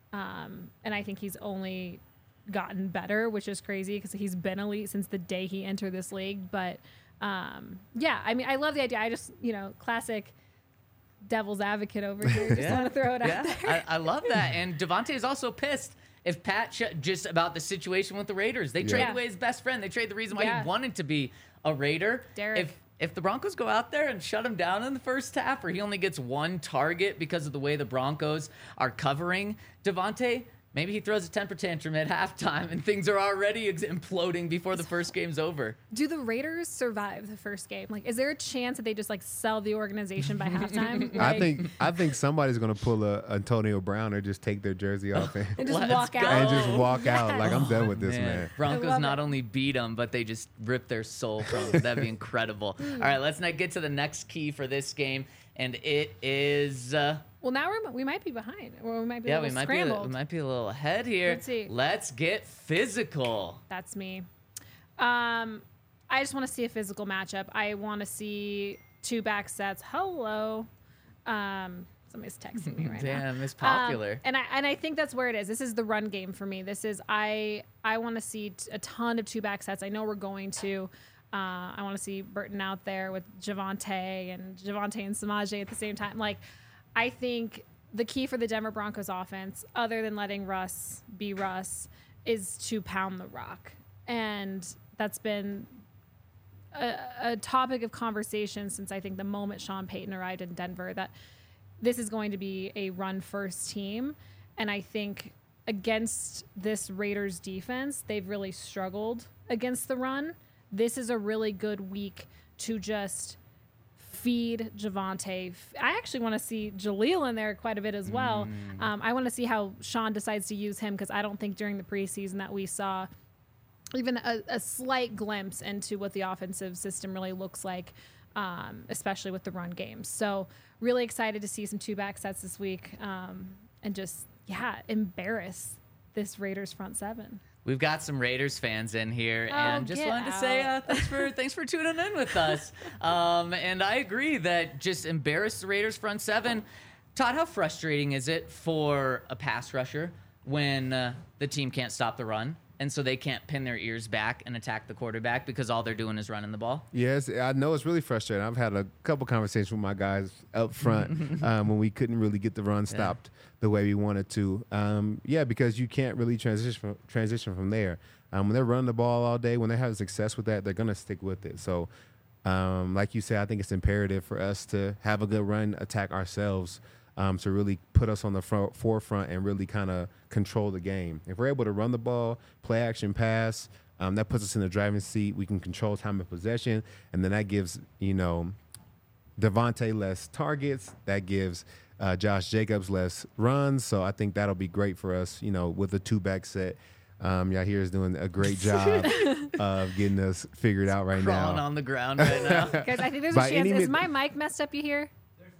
Um, and I think he's only gotten better, which is crazy because he's been elite since the day he entered this league. But um, yeah, I mean, I love the idea. I just, you know, classic devil's advocate over here. Just want to throw it out Yeah, there. I, I love that. And Devontae is also pissed if Pat sh- just about the situation with the Raiders. They Yeah. traded Yeah. away his best friend. They traded the reason why Yeah. he wanted to be a Raider. Derek. If if the Broncos go out there and shut him down in the first half, or he only gets one target because of the way the Broncos are covering Devontae, maybe he throws a temper tantrum at halftime and things are already ex- imploding before the first game's over. Do the Raiders survive the first game? Like, is there a chance that they just like sell the organization by halftime? I Like, think I think somebody's gonna pull a Antonio Brown or just take their jersey off and, and just Let's walk go. out. and just walk out. Yes. Like I'm done with this, Man, man. Broncos love not it. only beat them, but they just ripped their soul from them. That'd be incredible. All right, let's not get to the next key for this game, and it is. Uh, Well, now we're, we might be behind, or we might be yeah, a we little might be a, scrambled. we might be a little ahead here. Let's see. Let's get physical. That's me. Um, I just want to see a physical matchup. I want to see two back sets. Hello. Um, somebody's texting me right now. Damn, it's Um, popular. and I and I think that's where it is. This is the run game for me. This is I I want to see t- a ton of two back sets. I know we're going to. Uh, I want to see Burton out there with Javonte and Javonte and Samaje at the same time. Like, I think the key for the Denver Broncos offense, other than letting Russ be Russ, is to pound the rock, and that's been a, a topic of conversation since I think the moment Sean Payton arrived in Denver, that this is going to be a run-first team. And I think against this Raiders defense, they've really struggled against the run. This is a really good week to just feed Javonte. I actually want to see Jaleel in there quite a bit as well. Mm. Um, I want to see how Sean decides to use him, because I don't think during the preseason that we saw even a, a slight glimpse into what the offensive system really looks like, um, especially with the run game. So really excited to see some two back sets this week, um, and just, yeah, embarrass this Raiders front seven. We've got some Raiders fans in here, Oh, and just get wanted to say uh, out. thanks for thanks for tuning in with us. Um, and I agree that just embarrass the Raiders front seven. Todd, how frustrating is it for a pass rusher when uh, the team can't stop the run, and so they can't pin their ears back and attack the quarterback because all they're doing is running the ball? Yes, I know it's really frustrating. I've had a couple conversations with my guys up front um, when we couldn't really get the run stopped the way we wanted to. Um, yeah, because you can't really transition from, transition from there. Um, when they're running the ball all day, when they have success with that, they're going to stick with it. So, um, like you said, I think it's imperative for us to have a good run attack ourselves, um, to really put us on the front, forefront and really kind of control the game. If we're able to run the ball, play action pass, um, that puts us in the driving seat. We can control time of possession, and then that gives, you know, Devontae less targets. That gives uh, Josh Jacobs less runs. So I think that'll be great for us, you know, with the two-back set. Um, Yahir is doing a great job of getting us figured out right Crawling now. on the ground right now. Guys, I think there's By a chance. any Is mi- my mic messed up? You hear?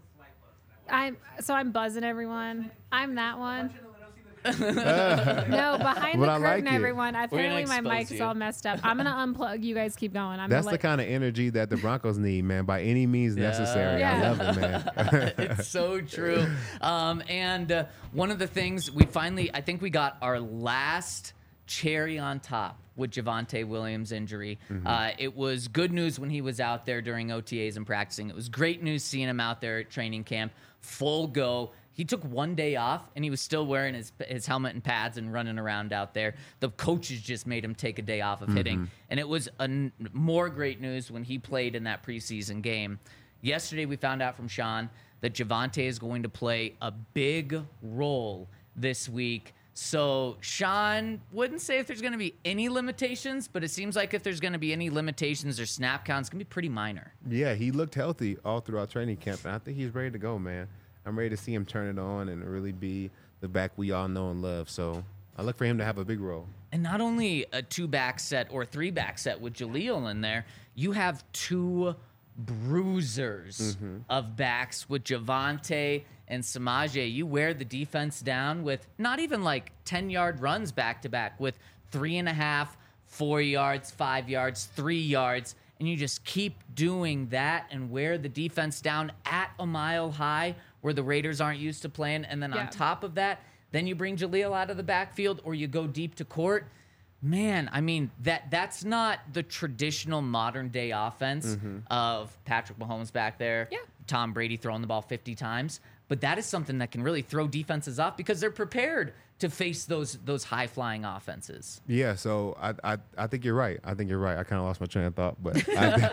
I'm so I'm buzzing everyone. I'm that one. No, behind But the I curtain, like it. everyone. Apparently, my expose mic is you. all messed up. I'm gonna unplug. You guys keep going. I'm That's gonna the let, kind of energy that the Broncos need, man, by any means necessary. Yeah. I love it, man. It's so true. Um, and uh, one of the things we finally, I think we got our last cherry on top with Javonte Williams' injury. Uh, it was good news when he was out there during O T As and practicing. It was great news seeing him out there at training camp, full go. He took one day off, and he was still wearing his his helmet and pads and running around out there. The coaches just made him take a day off of hitting. And it was a n- more great news when he played in that preseason game. Yesterday, we found out from Sean that Javonte is going to play a big role this week. So Sean wouldn't say if there's going to be any limitations, but it seems like if there's going to be any limitations or snap counts, it's going to be pretty minor. Yeah, he looked healthy all throughout training camp, and I think he's ready to go, man. I'm ready to see him turn it on and really be the back we all know and love. So I look for him to have a big role. And not only a two-back set or three-back set with Jaleel in there, you have two bruisers of backs with Javonte and Samaje. You wear the defense down with not even like ten-yard runs back-to-back, with three and a half, four yards, five yards, three yards, and you just keep doing that and wear the defense down at a mile high where the Raiders aren't used to playing. And then Yeah. on top of that, then you bring Jaleel out of the backfield or you go deep to court. Man, I mean, that that's not the traditional modern day offense of Patrick Mahomes back there, Yeah. Tom Brady throwing the ball fifty times. But that is something that can really throw defenses off because they're prepared to face those those high flying offenses. Yeah, so I, I I think you're right. I think you're right. I kind of lost my train of thought, but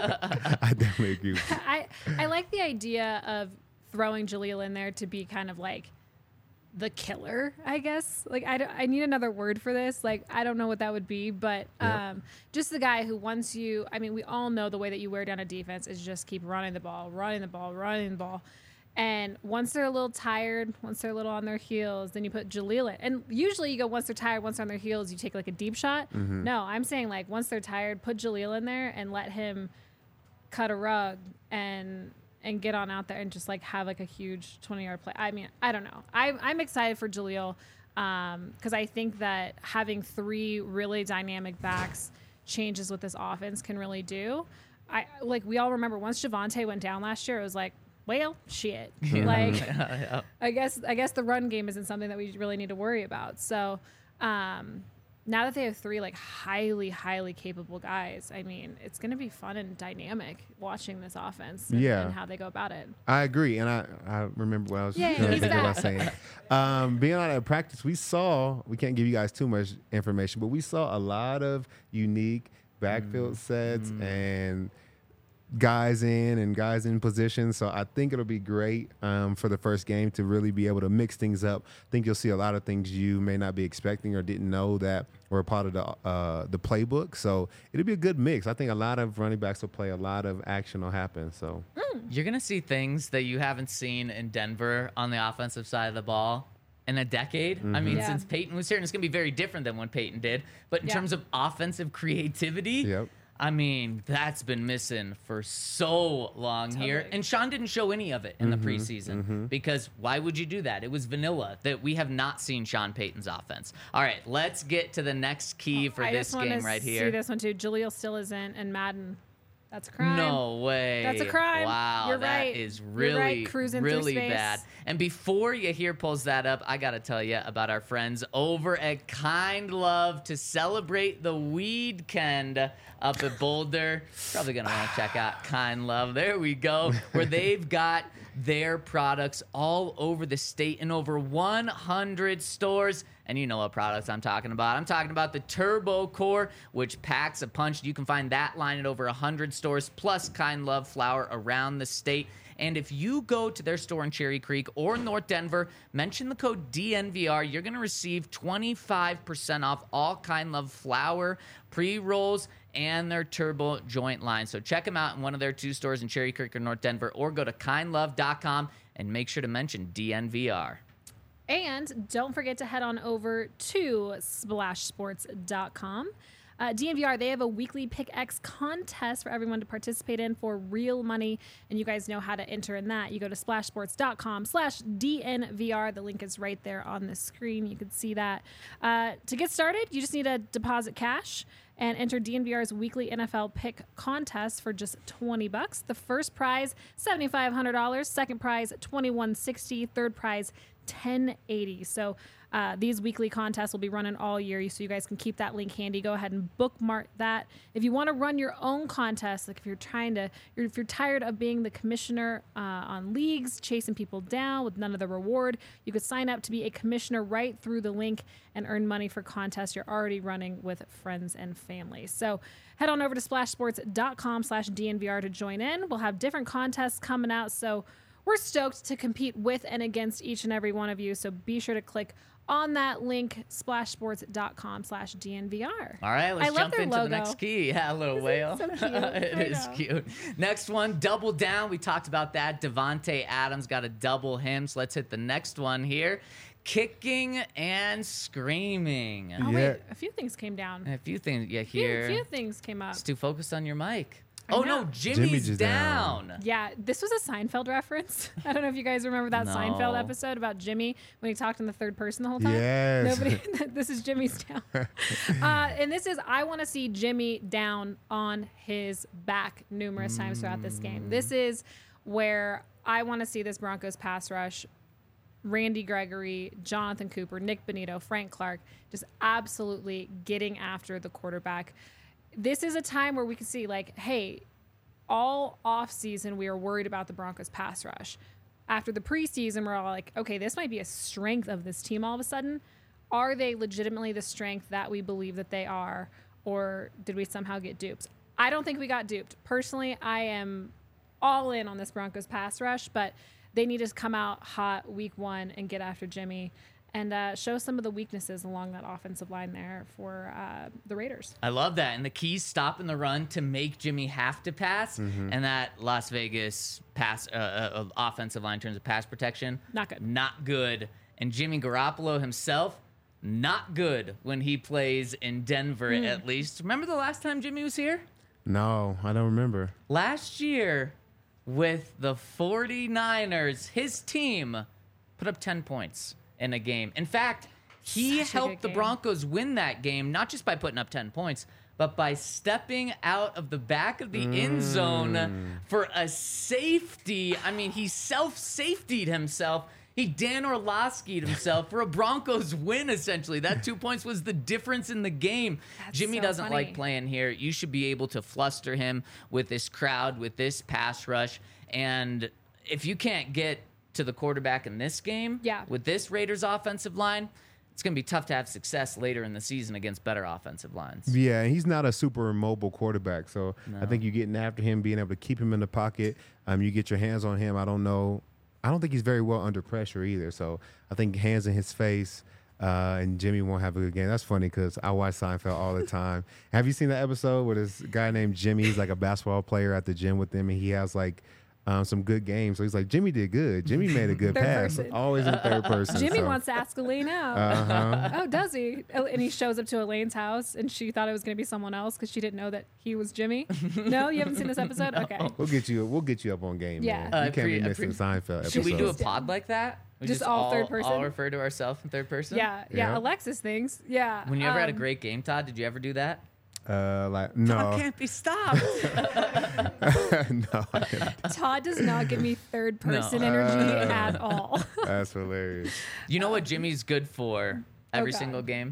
I, I definitely agree with you. I, I like the idea of throwing Jaleel in there to be kind of like the killer, I guess. Like, I, don't- I need another word for this. Like, I don't know what that would be, but um, just the guy who wants you, I mean, we all know the way that you wear down a defense is just keep running the ball, running the ball, running the ball. And once they're a little tired, once they're a little on their heels, then you put Jaleel in. And usually you go once they're tired, once they're on their heels, you take like a deep shot. Mm-hmm. No, I'm saying like once they're tired, put Jaleel in there and let him cut a rug and and get on out there and just like have like a huge twenty yard play. I mean, I don't know. I, I'm excited for Jaleel um, because I think that having three really dynamic backs changes what this offense can really do. I like we all remember once Javonte went down last year, it was like, well, shit. Like, I guess I guess the run game isn't something that we really need to worry about. So um, now that they have three like highly, highly capable guys, I mean, it's going to be fun and dynamic watching this offense and, Yeah. and how they go about it. I agree, and I, I remember what I was Yeah, gonna he's think about back. saying. Um, being out at practice, we saw, we can't give you guys too much information, but we saw a lot of unique backfield sets and guys in and guys in position. So I think it'll be great um, for the first game to really be able to mix things up. I think you'll see a lot of things you may not be expecting or didn't know that were part of the uh, the playbook. So it'll be a good mix. I think a lot of running backs will play. A lot of action will happen. So You're going to see things that you haven't seen in Denver on the offensive side of the ball in a decade. I mean, Yeah. since Peyton was here, and it's going to be very different than when Peyton did. But in Yeah. terms of offensive creativity, Yep. I mean, that's been missing for so long here. Totally. And Sean didn't show any of it in the preseason because why would you do that? It was vanilla that we have not seen Sean Payton's offense. All right, let's get to the next key for I this just want game to right see here. this one too. Jaleel still isn't, and Madden. That's a crime. No way. That's a crime. Wow, You're that right. is You're really, right, cruising through really space. bad. And before you hear pulls that up, I got to tell you about our friends over at Kind Love to celebrate the weekend up at Boulder. Probably going to want to check out Kind Love. There we go. Where they've got their products all over the state in over one hundred stores. And you know what products I'm talking about. I'm talking about the Turbo Core, which packs a punch. You can find that line at over one hundred stores, plus Kind Love flour around the state. And if you go to their store in Cherry Creek or North Denver, mention the code D N V R, you're going to receive twenty-five percent off all Kind Love flour, pre-rolls, and their Turbo joint line. So check them out in one of their two stores in Cherry Creek or North Denver, or go to kind love dot com and make sure to mention D N V R. And don't forget to head on over to splash sports dot com. Uh, D N V R, they have a weekly Pick X contest for everyone to participate in for real money, and you guys know how to enter in that. You go to splash sports dot com slash D N V R. The link is right there on the screen. You can see that. Uh, to get started, you just need to deposit cash and enter D N V R's weekly N F L pick contest for just twenty bucks. The first prize, seven thousand five hundred dollars. Second prize, twenty-one sixty. Third prize, ten eighty. So uh, these weekly contests will be running all year, so you guys can keep that link handy. Go ahead and bookmark that. If you want to run your own contest, like if you're trying to, if you're tired of being the commissioner uh, on leagues, chasing people down with none of the reward, you could sign up to be a commissioner right through the link and earn money for contests you're already running with friends and family. So head on over to splash sports dot com slash D N V R to join in. We'll have different contests coming out, so we're stoked to compete with and against each and every one of you. So be sure to click on that link, splash sports dot com slash D N V R. All right, let's I love jump their into logo. the next key. Yeah, a little Isn't whale. it so cute? It I is know. cute. Next one, double down. We talked about that. Devontae Adams got a double him. So let's hit the next one here. Kicking and screaming. Oh, Yeah. wait, a few things came down. A few things you A few, hear. few things came up. It's too focused on your mic. I Oh know. no, Jimmy's just down. down. Yeah, this was a Seinfeld reference. I don't know if you guys remember that Seinfeld No. episode about Jimmy when he talked in the third person the whole time. Yes. Nobody. This is Jimmy's down, uh, and this is I want to see Jimmy down on his back numerous times throughout this game. This is where I want to see this Broncos pass rush. Randy Gregory, Jonathan Cooper, Nick Bonito, Frank Clark, just absolutely getting after the quarterback. This is a time where we can see, like, hey, all offseason we are worried about the Broncos pass rush. after the preseason, we're all like, okay, this might be a strength of this team all of a sudden. Are they legitimately the strength that we believe that they are, or did we somehow get duped? I don't think we got duped. Personally, I am all in on this Broncos pass rush, but they need to come out hot week one and get after Jimmy and uh, show some of the weaknesses along that offensive line there for uh, the Raiders. I love that. And the key's stopping the run to make Jimmy have to pass. Mm-hmm. And that Las Vegas pass uh, uh, offensive line in terms of pass protection, Not good. Not good. And Jimmy Garoppolo himself, not good when he plays in Denver, Mm. at least. Remember the last time Jimmy was here? No, I don't remember. Last year with the 49ers, his team put up ten points in a game. In fact, he Such a helped good the game. Broncos win that game, not just by putting up ten points, but by stepping out of the back of the end zone for a safety. I mean, he self-safetied himself. He Dan Orlovsky'd himself for a Broncos win, essentially. That two points was the difference in the game. That's Jimmy so doesn't funny. like playing here. You should be able to fluster him with this crowd, with this pass rush. And if you can't get to the quarterback in this game, Yeah. with this Raiders offensive line, it's going to be tough to have success later in the season against better offensive lines. Yeah, and he's not a super mobile quarterback, so I think you're getting after him, being able to keep him in the pocket. Um, you get your hands on him. I don't know. I don't think he's very well under pressure either. So I think hands in his face, uh, and Jimmy won't have a good game. That's funny because I watch Seinfeld all the time. Have you seen that episode where this guy named Jimmy, he's like a basketball player at the gym with them, and he has like um, some good games. So he's like, Jimmy did good. Jimmy made a good Third pass. person. Always in third person. Jimmy so. wants to ask Elaine out. Uh-huh. Oh, does he? Oh, and he shows up to Elaine's house, and she thought it was going to be someone else because she didn't know that he was Jimmy. No, you haven't seen this episode? Okay. We'll get you. We'll get you up on game. Yeah. man. Uh, You can't pre- be uh, missing pre- Seinfeld. Should we do a episodes. pod like that? We Just all third person? All refer to ourselves in third person? Yeah, yeah, Yeah. Alexis thinks. Yeah. When you ever had a um, great game, Todd, did you ever do that? Uh, like no, I can't be stopped. no, I didn't. Todd does not give me third person No. energy Uh. at all. That's hilarious. You know what Jimmy's good for every Oh, God. single game?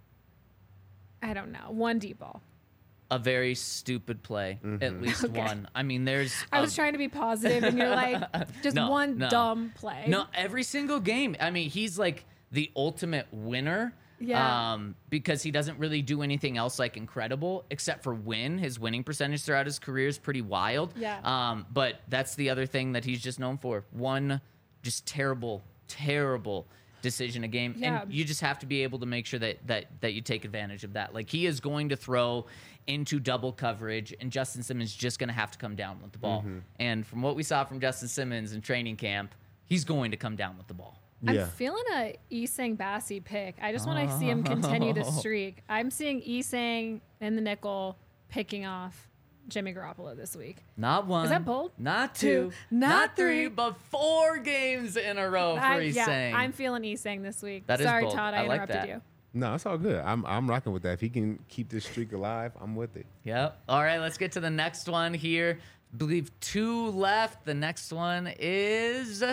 I don't know. One deep ball. A very stupid play, Mm-hmm. at least Okay. one. I mean, there's. I a- was trying to be positive, and you're like, just No, one no. dumb play. No, every single game. I mean, he's like the ultimate winner. Yeah. Um, because he doesn't really do anything else like incredible except for win. His winning percentage throughout his career is pretty wild. Yeah. Um, but that's the other thing that he's just known for. One just terrible, terrible decision a game. Yeah. And you just have to be able to make sure that that that you take advantage of that. Like he is going to throw into double coverage, and Justin Simmons just going to have to come down with the ball. Mm-hmm. And from what we saw from Justin Simmons in training camp, he's going to come down with the ball. I'm Yeah. feeling a Esang Bassi pick. I just want to see him continue the streak. I'm seeing Esang in the nickel picking off Jimmy Garoppolo this week. Not one. that bold? Not two. Two, Not, not three, three. but four games in a row for I, Esang. yeah, I'm feeling Esang this week. That is Sorry, bold. Todd, I, I like interrupted that. you. No, it's all good. I'm I'm rocking with that. If he can keep this streak alive, I'm with it. Yep. All right, let's get to the next one here. I believe two left. The next one is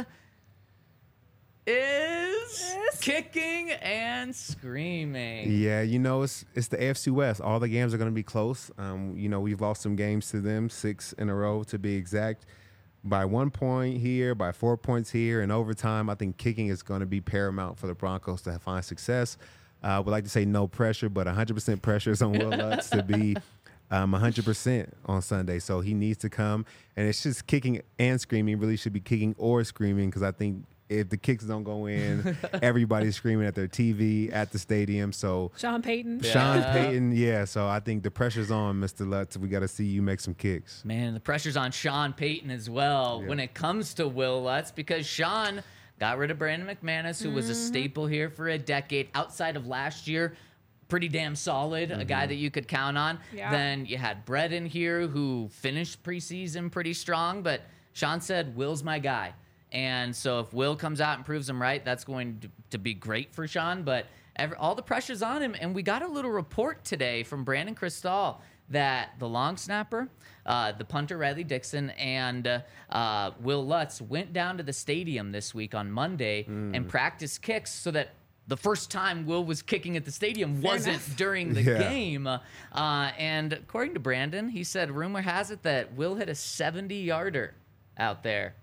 is Yes. kicking and screaming. Yeah, you know it's it's the A F C West. All the games are going to be close. Um, you know we've lost some games to them, six in a row to be exact. By one point here, by four points here, in overtime, I think kicking is going to be paramount for the Broncos to find success. I uh, would like to say no pressure, but one hundred percent pressure is on Will Lutz to be um, one hundred percent on Sunday. So he needs to come, and it's just kicking and screaming. Really should be kicking or screaming because I think if the kicks don't go in, everybody's screaming at their T V at the stadium. So Sean Payton. Yeah. Sean Payton, yeah. So I think the pressure's on, Mister Lutz. We got to see you make some kicks. Man, the pressure's on Sean Payton as well Yeah. when it comes to Will Lutz because Sean got rid of Brandon McManus, who was a staple here for a decade. Outside of last year, pretty damn solid, a guy that you could count on. Yeah. Then you had Brett in here who finished preseason pretty strong, but Sean said, Will's my guy. And so if Will comes out and proves him right, that's going to, to be great for Sean. But every, all the pressure's on him. And we got a little report today from Brandon Cristal that the long snapper, uh, the punter Riley Dixon, and uh, uh, Will Lutz went down to the stadium this week on Monday and practiced kicks so that the first time Will was kicking at the stadium Fair wasn't enough. during the Yeah. game. Uh, and according to Brandon, he said, rumor has it that Will hit a seventy-yarder out there.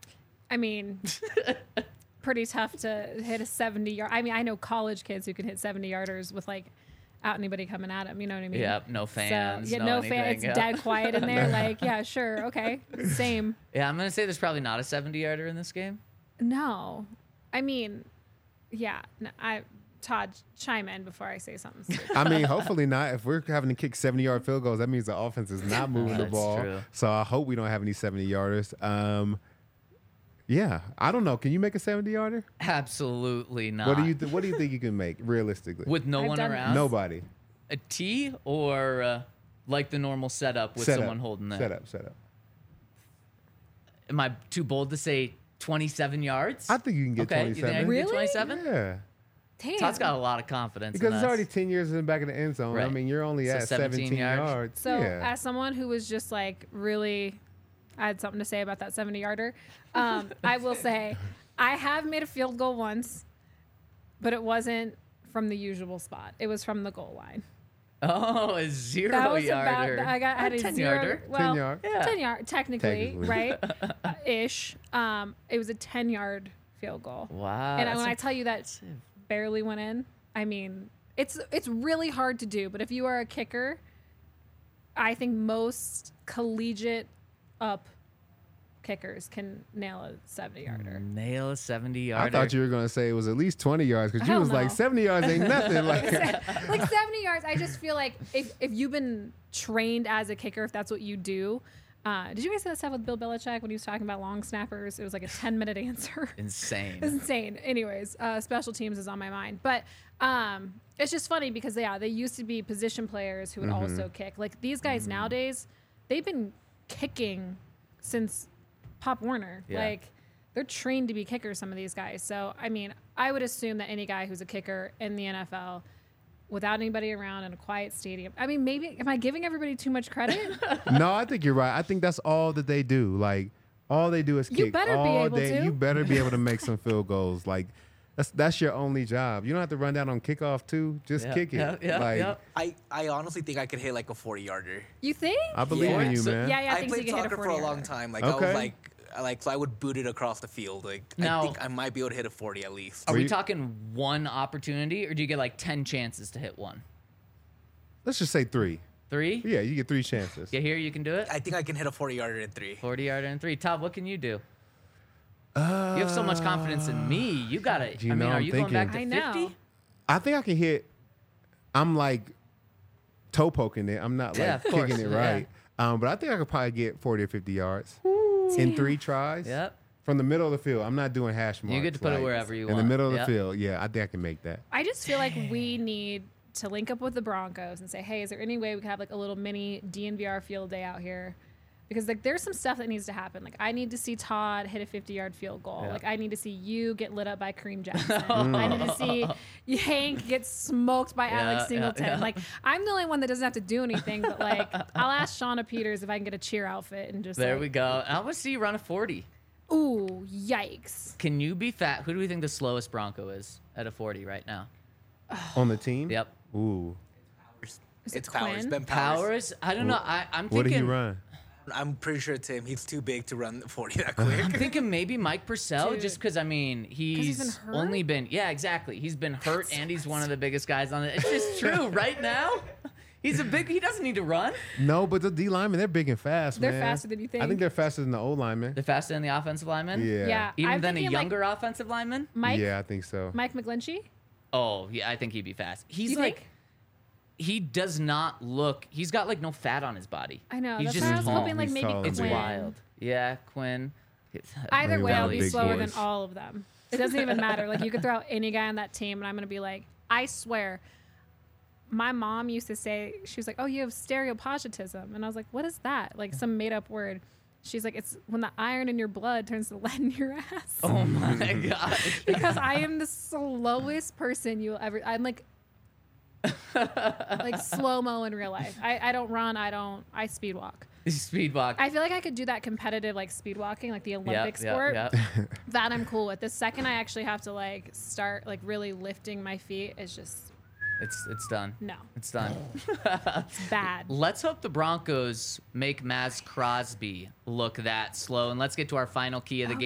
I mean, pretty tough to hit a seventy yard. I mean, I know college kids who can hit seventy yarders with like out anybody coming at them. You know what I mean? Yep, no fans. So, yeah, no no fans. It's anything, yeah. dead quiet in there. Like, yeah, sure, okay, same. Yeah, I'm gonna say there's probably not a seventy yarder in this game. No, I mean, yeah. No, I Todd, chime in before I say something stupid. I mean, hopefully not. If we're having to kick seventy-yard field goals, that means the offense is not moving the That's ball. true. So I hope we don't have any seventy-yarders. Um, yeah, I don't know. Can you make a seventy-yarder? Absolutely not. What do you th- What do you think you can make realistically? With no I've one done around? Nobody. A tee or uh, like the normal setup with Set someone up. holding that? Set up. Set up. Am I too bold to say twenty-seven yards? I think you can get okay, you think I can twenty-seven. get Really? twenty-seven? Yeah. Damn. Todd's got a lot of confidence Because in it's us. already ten years in the back of the end zone. I Right. mean, you're only So at seventeen seventeen yards. yards. So, yeah. as someone who was just like really, I had something to say about that seventy yarder. Um, I will say, I have made a field goal once, but it wasn't from the usual spot. It was from the goal line. Oh, a zero That was yarder. about. I got I had a ten zero. yarder. Well, ten yard. Yeah. ten yard technically, Technically. right? Uh, ish. Um, it was a ten yard field goal. Wow. and that's when I tell you that barely went in, I mean, it's it's really hard to do. But if you are a kicker, I think most collegiate up kickers can nail a seventy yarder. nail a seventy I yarder. thought you were going to say it was at least twenty yards because you Hell was like no. seventy yards ain't nothing. Like, Like seventy yards, I just feel like if, if you've been trained as a kicker, if that's what you do. Uh, did you guys see that stuff with Bill Belichick when he was talking about long snappers? It was like a ten minute answer. Insane. It's insane. Anyways, uh, special teams is on my mind. But um, it's just funny because, yeah, they used to be position players who would Mm-hmm. also kick. Like these guys nowadays, they've been kicking since Pop Warner. Yeah. Like they're trained to be kickers, some of these guys. So, I mean, I would assume that any guy who's a kicker in the N F L without anybody around in a quiet stadium. I mean, maybe, am I giving everybody too much credit? no, I think you're right. I think that's all that they do. Like, all they do is You kick better be all able day. to. You better be able to make some field goals. Like, that's that's your only job. You don't have to run down on kickoff too. Just Yeah, kick it. yeah, yeah, like, yeah. I, I honestly think I could hit like a forty yarder. You think? I believe Yeah. in you, So- man. yeah, yeah, I, I think so you played can hit a soccer for a forty long yarder. time. Like I Okay. was like, I- like so I would boot it across the field. Like Now- I think I might be able to hit a forty at least. Are Were we you- talking one opportunity or do you get like ten chances to hit one? Let's just say three. Three? Yeah, you get three chances. You hear you can do it? I think I can hit a forty yarder in three. forty yarder and three. Todd, what can you do? you have so much confidence in me. You got it. you I mean, know, are I'm you going back to thinking- I know. fifty? I think I can hit. I'm like toe poking it. I'm not like Yeah, of course, kicking it yeah. right. Um, but I think I could probably get forty or fifty yards in three tries. Yep. From the middle of the field. I'm not doing hash marks. You get to put it like, wherever you in want. the middle of Yep. the field. Yeah, I think I can make that. I just feel like we need to link up with the Broncos and say, hey, is there any way we could have like a little mini D N V R field day out here? Because like there's some stuff that needs to happen. Like I need to see Todd hit a fifty yard field goal. Yeah. Like I need to see you get lit up by Kareem Jackson. I need to see Hank get smoked by Yeah, Alex yeah, Singleton. yeah. Like I'm the only one that doesn't have to do anything. But like I'll ask Shauna Peters if I can get a cheer outfit and just There like, we go. I want to see you run a forty. Ooh, yikes. Can you be fat? Who do we think the slowest Bronco is at a forty right now? On the team? Yep. Ooh. Is it It's Powers. Quinn? Ben Powers. Powers? I don't know. I, I'm What thinking. did he run? I'm pretty sure it's him. He's too big to run the forty that quick. I'm thinking maybe Mike Purcell, Dude. just because I mean he's, he's been hurt? only been yeah exactly. He's been hurt and he's one of the biggest guys on it. It's just true right now. He's a big. He doesn't need to run. No, but the D linemen, they're big and fast, They're man. faster than you I think. think they're faster than the O linemen. They're faster than the offensive lineman. Yeah. Yeah. Even I'm than a thinking, like, younger offensive lineman. Mike, Yeah, I think so. Mike McGlinchey? Oh yeah, I think he'd be fast. He's You like think? he does not look. He's got like no fat on his body. I know. He's That's just why I was tall. hoping like He's maybe tall and It's Quinn. big. wild. Yeah, Quinn. Either Maybe way, one I'll of be the big slower boys. than all of them. It doesn't even matter. Like you could throw out any guy on that team, and I'm gonna be like, I swear. My mom used to say, she was like, "Oh, you have stereopositivism," and I was like, "What is that?" Like some made up word. She's like, "It's when the iron in your blood turns to lead in your ass." Oh my gosh. Because I am the slowest person you'll ever. I'm like, like slow mo in real life. I, I don't run. I don't. I speed walk. Speed walk. I feel like I could do that competitive like speed walking, like the Olympic sport. Yeah, yeah. That I'm cool with. The second I actually have to like start like really lifting my feet is just It's it's done. no. It's done. It's bad. Let's hope the Broncos make Maz Crosby look that slow. And let's get to our final key of the Oh, game. yeah.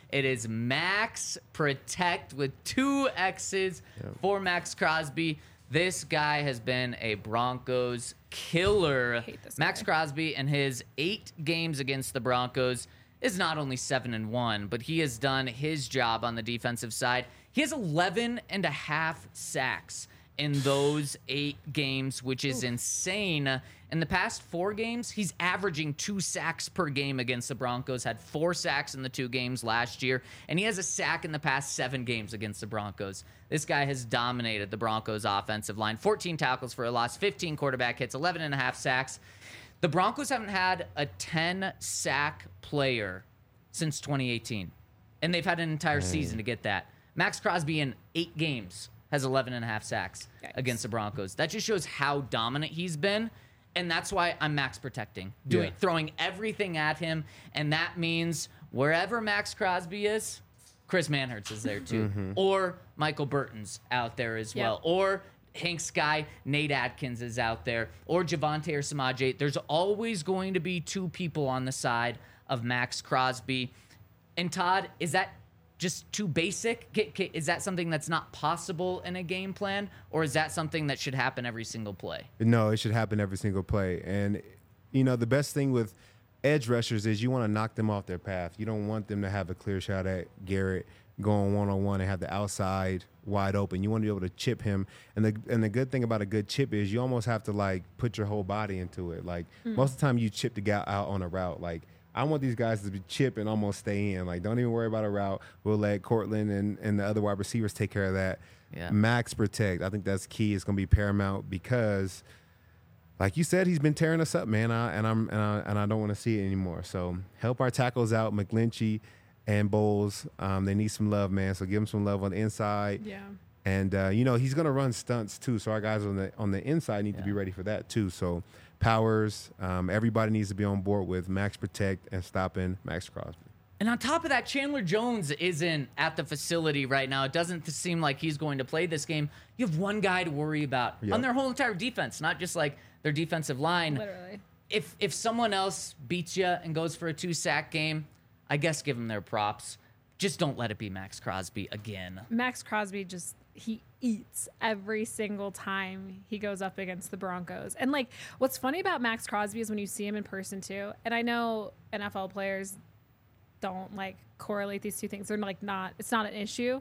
It is Max Protect with two X's for Max Crosby. This guy has been a Broncos killer. hate this Max guy. Crosby in his eight games against the Broncos is not only seven and one, but he has done his job on the defensive side. He has eleven and a half sacks in those eight games, which is insane. In the past four games, he's averaging two sacks per game against the Broncos, had four sacks in the two games last year, and he has a sack in the past seven games against the Broncos. This guy has dominated the Broncos offensive line. fourteen tackles for a loss, fifteen quarterback hits, eleven and a half sacks. The Broncos haven't had a ten-sack player since twenty eighteen, and they've had an entire season to get that. Max Crosby in eight games has eleven and a half sacks Yikes. against the Broncos. That just shows how dominant he's been, and that's why I'm max protecting, doing Yeah. throwing everything at him, and that means wherever Max Crosby is, Chris Manhertz is there too, or Michael Burton's out there as Yep. well, or Hank's guy Nate Atkins is out there, or Javante or Samaje. There's always going to be two people on the side of Max Crosby. And Todd, is that just too basic? Ca- ca- Is that something that's not possible in a game plan, or is that something that should happen every single play? No, it should happen every single play. And, you know, the best thing with edge rushers is you want to knock them off their path. You don't want them to have a clear shot at Garrett going one-on-one and have the outside wide open. You want to be able to chip him. And the and the good thing about a good chip is you almost have to, like, put your whole body into it. Like, most of the time you chip the guy out on a route. Like, I want these guys to be chip and almost stay in. Like, don't even worry about a route. We'll let Cortland and, and the other wide receivers take care of that. Yeah. Max protect. I think that's key. It's going to be paramount because, like you said, he's been tearing us up, man. I, and I'm and I, and I don't want to see it anymore. So help our tackles out, McGlinchey and Bowles. Um, they need some love, man. So give them some love on the inside. Yeah. And uh, you know he's going to run stunts too. So our guys on the on the inside need to be Yeah. ready for that too. So Powers, um, everybody needs to be on board with Max protect and stopping Max Crosby. And on top of that, Chandler Jones isn't at the facility right now. It doesn't seem like he's going to play this game. You have one guy to worry about Yep. on their whole entire defense, not just like their defensive line. Literally. If if someone else beats you and goes for a two-sack game, I guess give them their props. Just don't let it be Max Crosby again. Max Crosby just he eats every single time he goes up against the Broncos. And like what's funny about Max Crosby is when you see him in person too. And I know N F L players don't like correlate these two things. They're like not it's not an issue.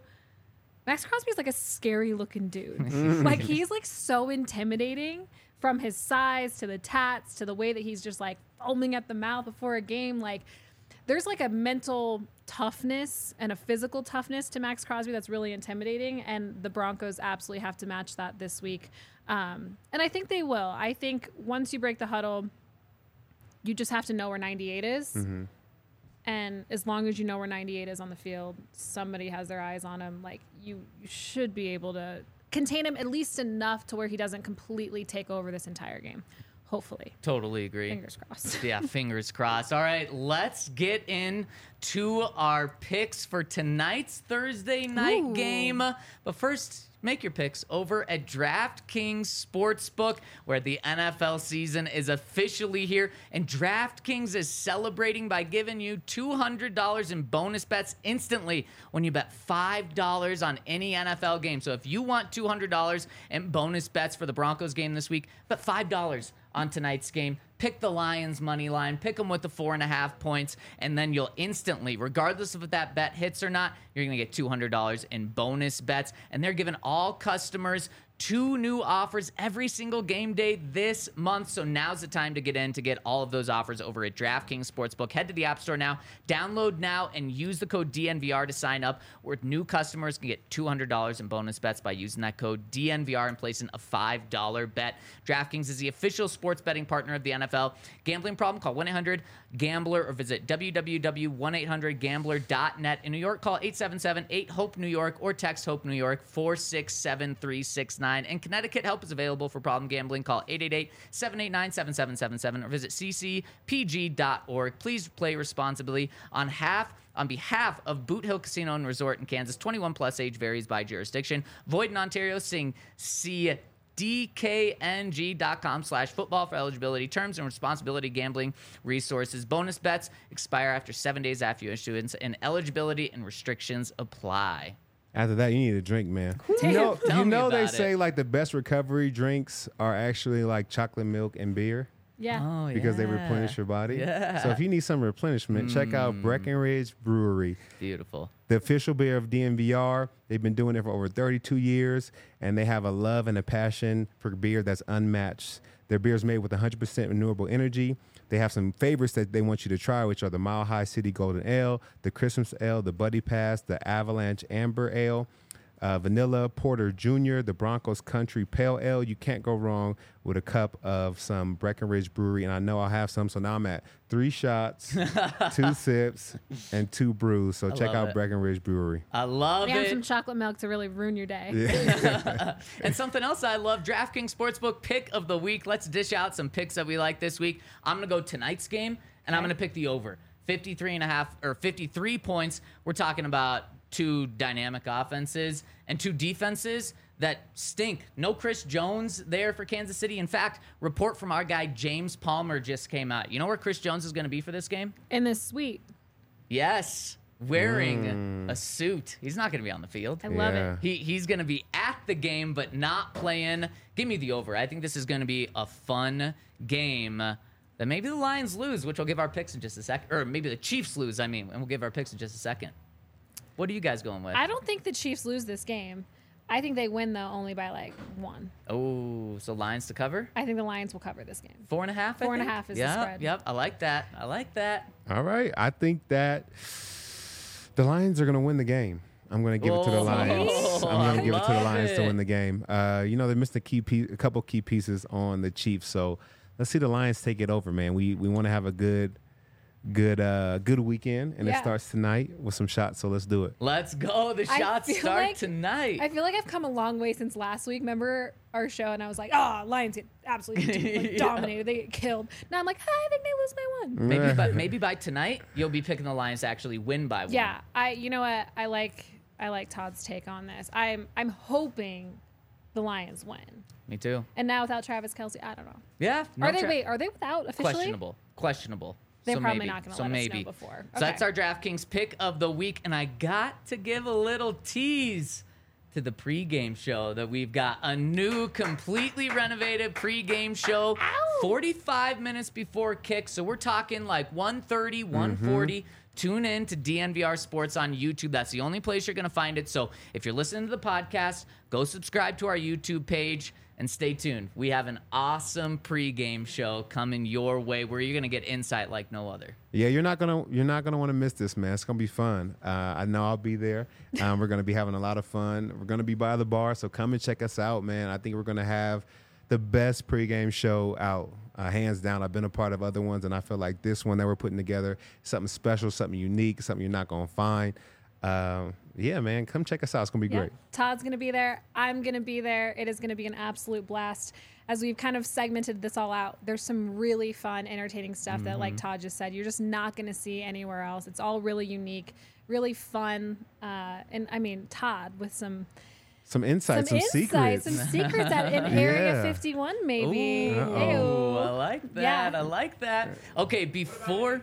Max Crosby is like a scary looking dude. Like he's like so intimidating from his size to the tats to the way that he's just like foaming at the mouth before a game. Like there's like a mental toughness and a physical toughness to Max Crosby that's really intimidating, and the Broncos absolutely have to match that this week. Um, and I think they will. I think once you break the huddle, you just have to know where ninety-eight is. And as long as you know where ninety-eight is on the field, somebody has their eyes on him. Like you, you should be able to contain him at least enough to where he doesn't completely take over this entire game. Hopefully. Totally agree. Fingers crossed. Yeah, fingers crossed. All right, let's get into our picks for tonight's Thursday night Ooh. game. But first, make your picks over at DraftKings Sportsbook, where the N F L season is officially here. And DraftKings is celebrating by giving you two hundred dollars in bonus bets instantly when you bet five dollars on any N F L game. So if you want two hundred dollars in bonus bets for the Broncos game this week, bet five dollars on tonight's game. Pick the Lions money line, pick them with the four and a half points, and then you'll instantly, regardless of if that bet hits or not, you're going to get two hundred dollars in bonus bets. And they're giving all customers two new offers every single game day this month. So now's the time to get in to get all of those offers over at DraftKings Sportsbook. Head to the App Store now, download now, and use the code D N V R to sign up, where new customers can get two hundred dollars in bonus bets by using that code D N V R and placing a five dollar bet. DraftKings is the official sports betting partner of the N F L. Gambling problem? Call one eight hundred gambler or visit w w w dot one eight hundred gambler dot net. In New York, call eight seven seven eight hope New York or text HOPE New York four six seven three six nine. In Connecticut, help is available for problem gambling. Call eight eight eight seven eight nine seven seven seven seven or visit c c p g dot org. Please play responsibly. On half On behalf of Boot Hill Casino and Resort in Kansas, twenty-one plus, age varies by jurisdiction. Void in Ontario, seeing C D K N G dot com slash football for eligibility, terms, and responsibility gambling resources. Bonus bets expire after seven days after your issuance, and eligibility and restrictions apply. After that, you need a drink, man. You Damn. know, Tell you me know they about say it. like the best recovery drinks are actually like chocolate milk and beer Yeah. Oh, because they yeah. replenish your body. Yeah. So if you need some replenishment, check out Breckenridge Brewery, Beautiful. the official beer of D N V R. They've been doing it for over thirty-two years, and they have a love and a passion for beer that's unmatched. Their beer is made with one hundred percent renewable energy. They have some favorites that they want you to try, which are the Mile High City Golden Ale, the Christmas Ale, the Buddy Pass, the Avalanche Amber Ale, uh, Vanilla Porter Junior, the Broncos Country Pale Ale. You can't go wrong with a cup of some Breckenridge Brewery, and I know I'll have some. So now I'm at three shots, two sips, and two brews. So check love out it. Breckenridge Brewery. I love And it. some chocolate milk to really ruin your day. And something else I love, DraftKings Sportsbook pick of the week. Let's dish out some picks that we like this week. I'm going to go tonight's game, and I'm going to pick the over. fifty-three and a half or fifty-three points. We're talking about two dynamic offenses and two defenses that stink. No Chris Jones there for Kansas City. In fact, report from our guy James Palmer just came out. You know where Chris Jones is going to be for this game? In this suite. Yes, wearing a suit. He's not going to be on the field. I love Yeah. it. He he's going to be at the game, but not playing. Give me the over. I think this is going to be a fun game that maybe the Lions lose, which we'll give our picks in just a second. Or maybe the Chiefs lose, I mean, and we'll give our picks in just a second. What are you guys going with? I don't think the Chiefs lose this game. I think they win, though, only by like one. Oh, so Lions to cover? I think the Lions will cover this game. Four and a half, I Four and a think? half is the yep, spread. Yep, I like that. I like that. All right. I think that the Lions are going to win the game. I'm going to give it to the Oh, Lions. I'm going I to give it to the love Lions to it. win the game. Uh, you know, they missed a key piece, a couple key pieces on the Chiefs. So let's see the Lions take it over, man. We we want to have a good, good, uh, good weekend, and it Yeah. starts tonight with some shots. So let's do it. Let's go. The I shots feel start like- tonight. I feel like I've come a long way since last week. Remember our show, and I was like, "Oh, Lions get absolutely like, Yeah. dominated. They get killed." Now I'm like, "I think they lose by one." Maybe by, maybe by tonight, you'll be picking the Lions to actually win by one. Yeah, I. You know what? I like. I like Todd's take on this. I'm. I'm hoping the Lions win. Me too. And now without Travis Kelce, I don't know. Yeah. no are they? tra- Wait, are they without officially? Questionable. Questionable. They're so probably maybe. not gonna so let us know maybe. before. So Okay. that's our DraftKings pick of the week, and I got to give a little tease to the pregame show that we've got a new, completely renovated pregame show, Ow. forty-five minutes before kick. So we're talking like one thirty, one forty. Tune in to D N V R Sports on YouTube. That's the only place you're going to find it. So if you're listening to the podcast, go subscribe to our YouTube page and stay tuned. We have an awesome pregame show coming your way where you're going to get insight like no other. Yeah, you're not gonna you're not gonna want to miss this, man. It's gonna be fun. Uh, I know I'll be there. Um, we're gonna be having a lot of fun. We're gonna be by the bar, so come and check us out, man. I think we're gonna have the best pregame show out, uh, hands down. I've been a part of other ones, and I feel like this one that we're putting together is something special, something unique, something you're not gonna find. Uh, yeah, man, come check us out. It's gonna be Yeah. great. Todd's going to be there. I'm going to be there. It is going to be an absolute blast. As we've kind of segmented this all out, there's some really fun, entertaining stuff that, like Todd just said, you're just not going to see anywhere else. It's all really unique, really fun. Uh, and I mean, Todd with some Some insights, some, some secrets. insights, some secrets at in Area Yeah. fifty-one, maybe. Ooh, Ew. I like that. Yeah. I like that. Okay, before...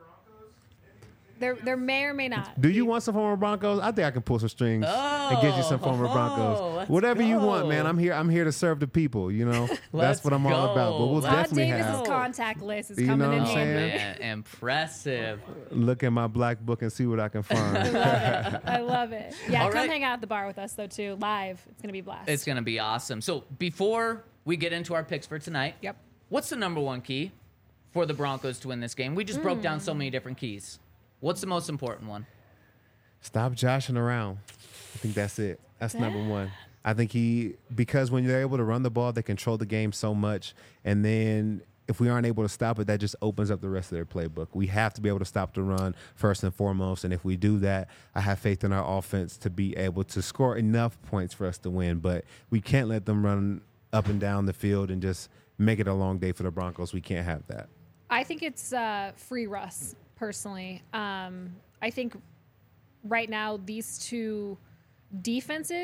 There, there may or may not. Do you want some former Broncos? I think I can pull some strings and get you some former Oh, Broncos. let's Whatever you want, go. man. I'm here. I'm here to serve the people. You know, that's Let's what I'm all about. But go. we'll Let's Todd definitely Davis's have. contact list is You coming know in what I'm handy. saying? Man, impressive. Look at my black book and see what I can I find. love it. I love it. Yeah, All come right. hang out at the bar with us though too, live. It's gonna be a blast. It's going to be awesome. So before we get into our picks for tonight, Yep. what's the number one key for the Broncos to win this game? We just broke down Hmm. so many different keys. What's the most important one? Stop joshing around. I think that's it. That's number one. I think he, because when you're able to run the ball, they control the game so much. And then if we aren't able to stop it, that just opens up the rest of their playbook. We have to be able to stop the run first and foremost. And if we do that, I have faith in our offense to be able to score enough points for us to win. But we can't let them run up and down the field and just make it a long day for the Broncos. We can't have that. I think it's uh, free Russ personally. Um, I think right now these two defenses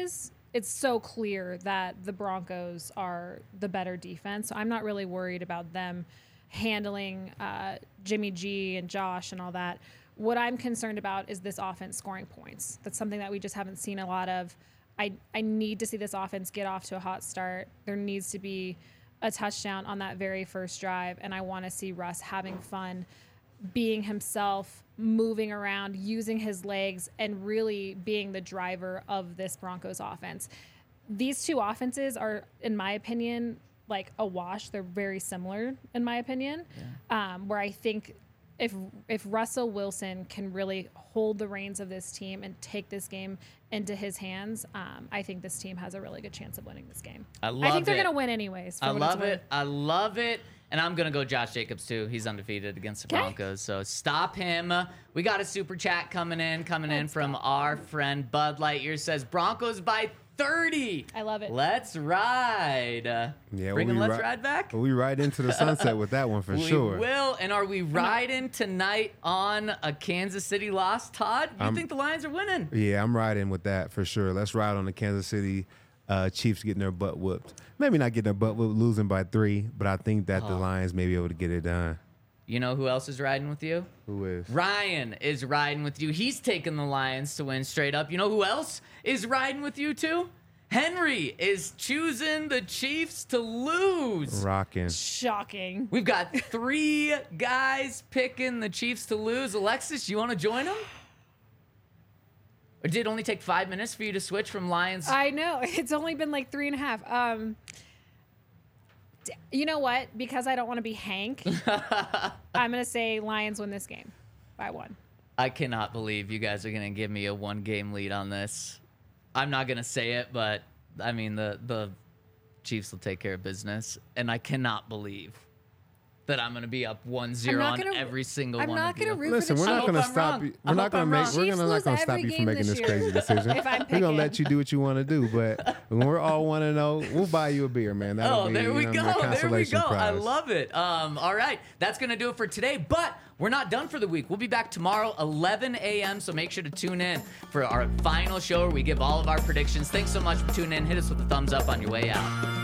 it's so clear that the Broncos are the better defense. So I'm not really worried about them handling uh, Jimmy G and Josh and all that. What I'm concerned about is this offense scoring points. That's something that we just haven't seen a lot of. I, I need to see this offense get off to a hot start. There needs to be a touchdown on that very first drive, and I want to see Russ having fun, being himself, moving around, using his legs, and really being the driver of this Broncos offense. These two offenses are, in my opinion, like a wash. They're very similar, in my opinion, yeah. um, where I think if if Russell Wilson can really hold the reins of this team and take this game into his hands, um, I think this team has a really good chance of winning this game. I love I think they're it. going to win anyways. For I what love it's it. worth. I love it. And I'm going to go Josh Jacobs, too. He's undefeated against the Okay. Broncos. So stop him. We got a super chat coming in, coming in Let's from go. our friend Bud Lightyear. Says Broncos by thirty. I love it. Let's ride. Uh, Yeah, Bringing we'll be Let's ri- Ride back? We ride into the sunset with that one for we sure. will. And are we riding tonight on a Kansas City loss, Todd? You I'm- think the Lions are winning? Yeah, I'm riding with that for sure. Let's ride on the Kansas City uh, Chiefs getting their butt whooped. Maybe not getting their butt whooped, losing by three, but I think that the Oh. Lions may be able to get it done. You know who else is riding with you? Who is? Ryan is riding with you. He's taking the Lions to win straight up. You know who else is riding with you too? Henry is choosing the Chiefs to lose. Rocking. Shocking. We've got three guys picking the Chiefs to lose. Alexis, you want to join them? Or did it only take five minutes for you to switch from Lions? I know. It's only been like three and a half. Um, d- you know what? Because I don't want to be Hank, I'm going to say Lions win this game by one. I cannot believe you guys are going to give me a one-game lead on this. I'm not going to say it, but, I mean, the, the Chiefs will take care of business. And I cannot believe that I'm going to be up one zero I'm on not gonna- every single I'm one not of you. gonna root Listen, for we're the not I going to hope I'm stop wrong. you. I We're not hope going I'm to make. wrong. We're Chiefs gonna not lose going to stop every you from game making this this crazy year. decision. If I'm We're gonna picking. let you do what you want to do, but when we're all one and zero, we'll buy you a beer, man. That'll Oh, be, there we you know, go. a There we consolation go. I prize. love it. Um, all right. That's going to do it for today. But we're not done for the week. We'll be back tomorrow, eleven a.m. So make sure to tune in for our final show where we give all of our predictions. Thanks so much for tuning in. Hit us with a thumbs up on your way out.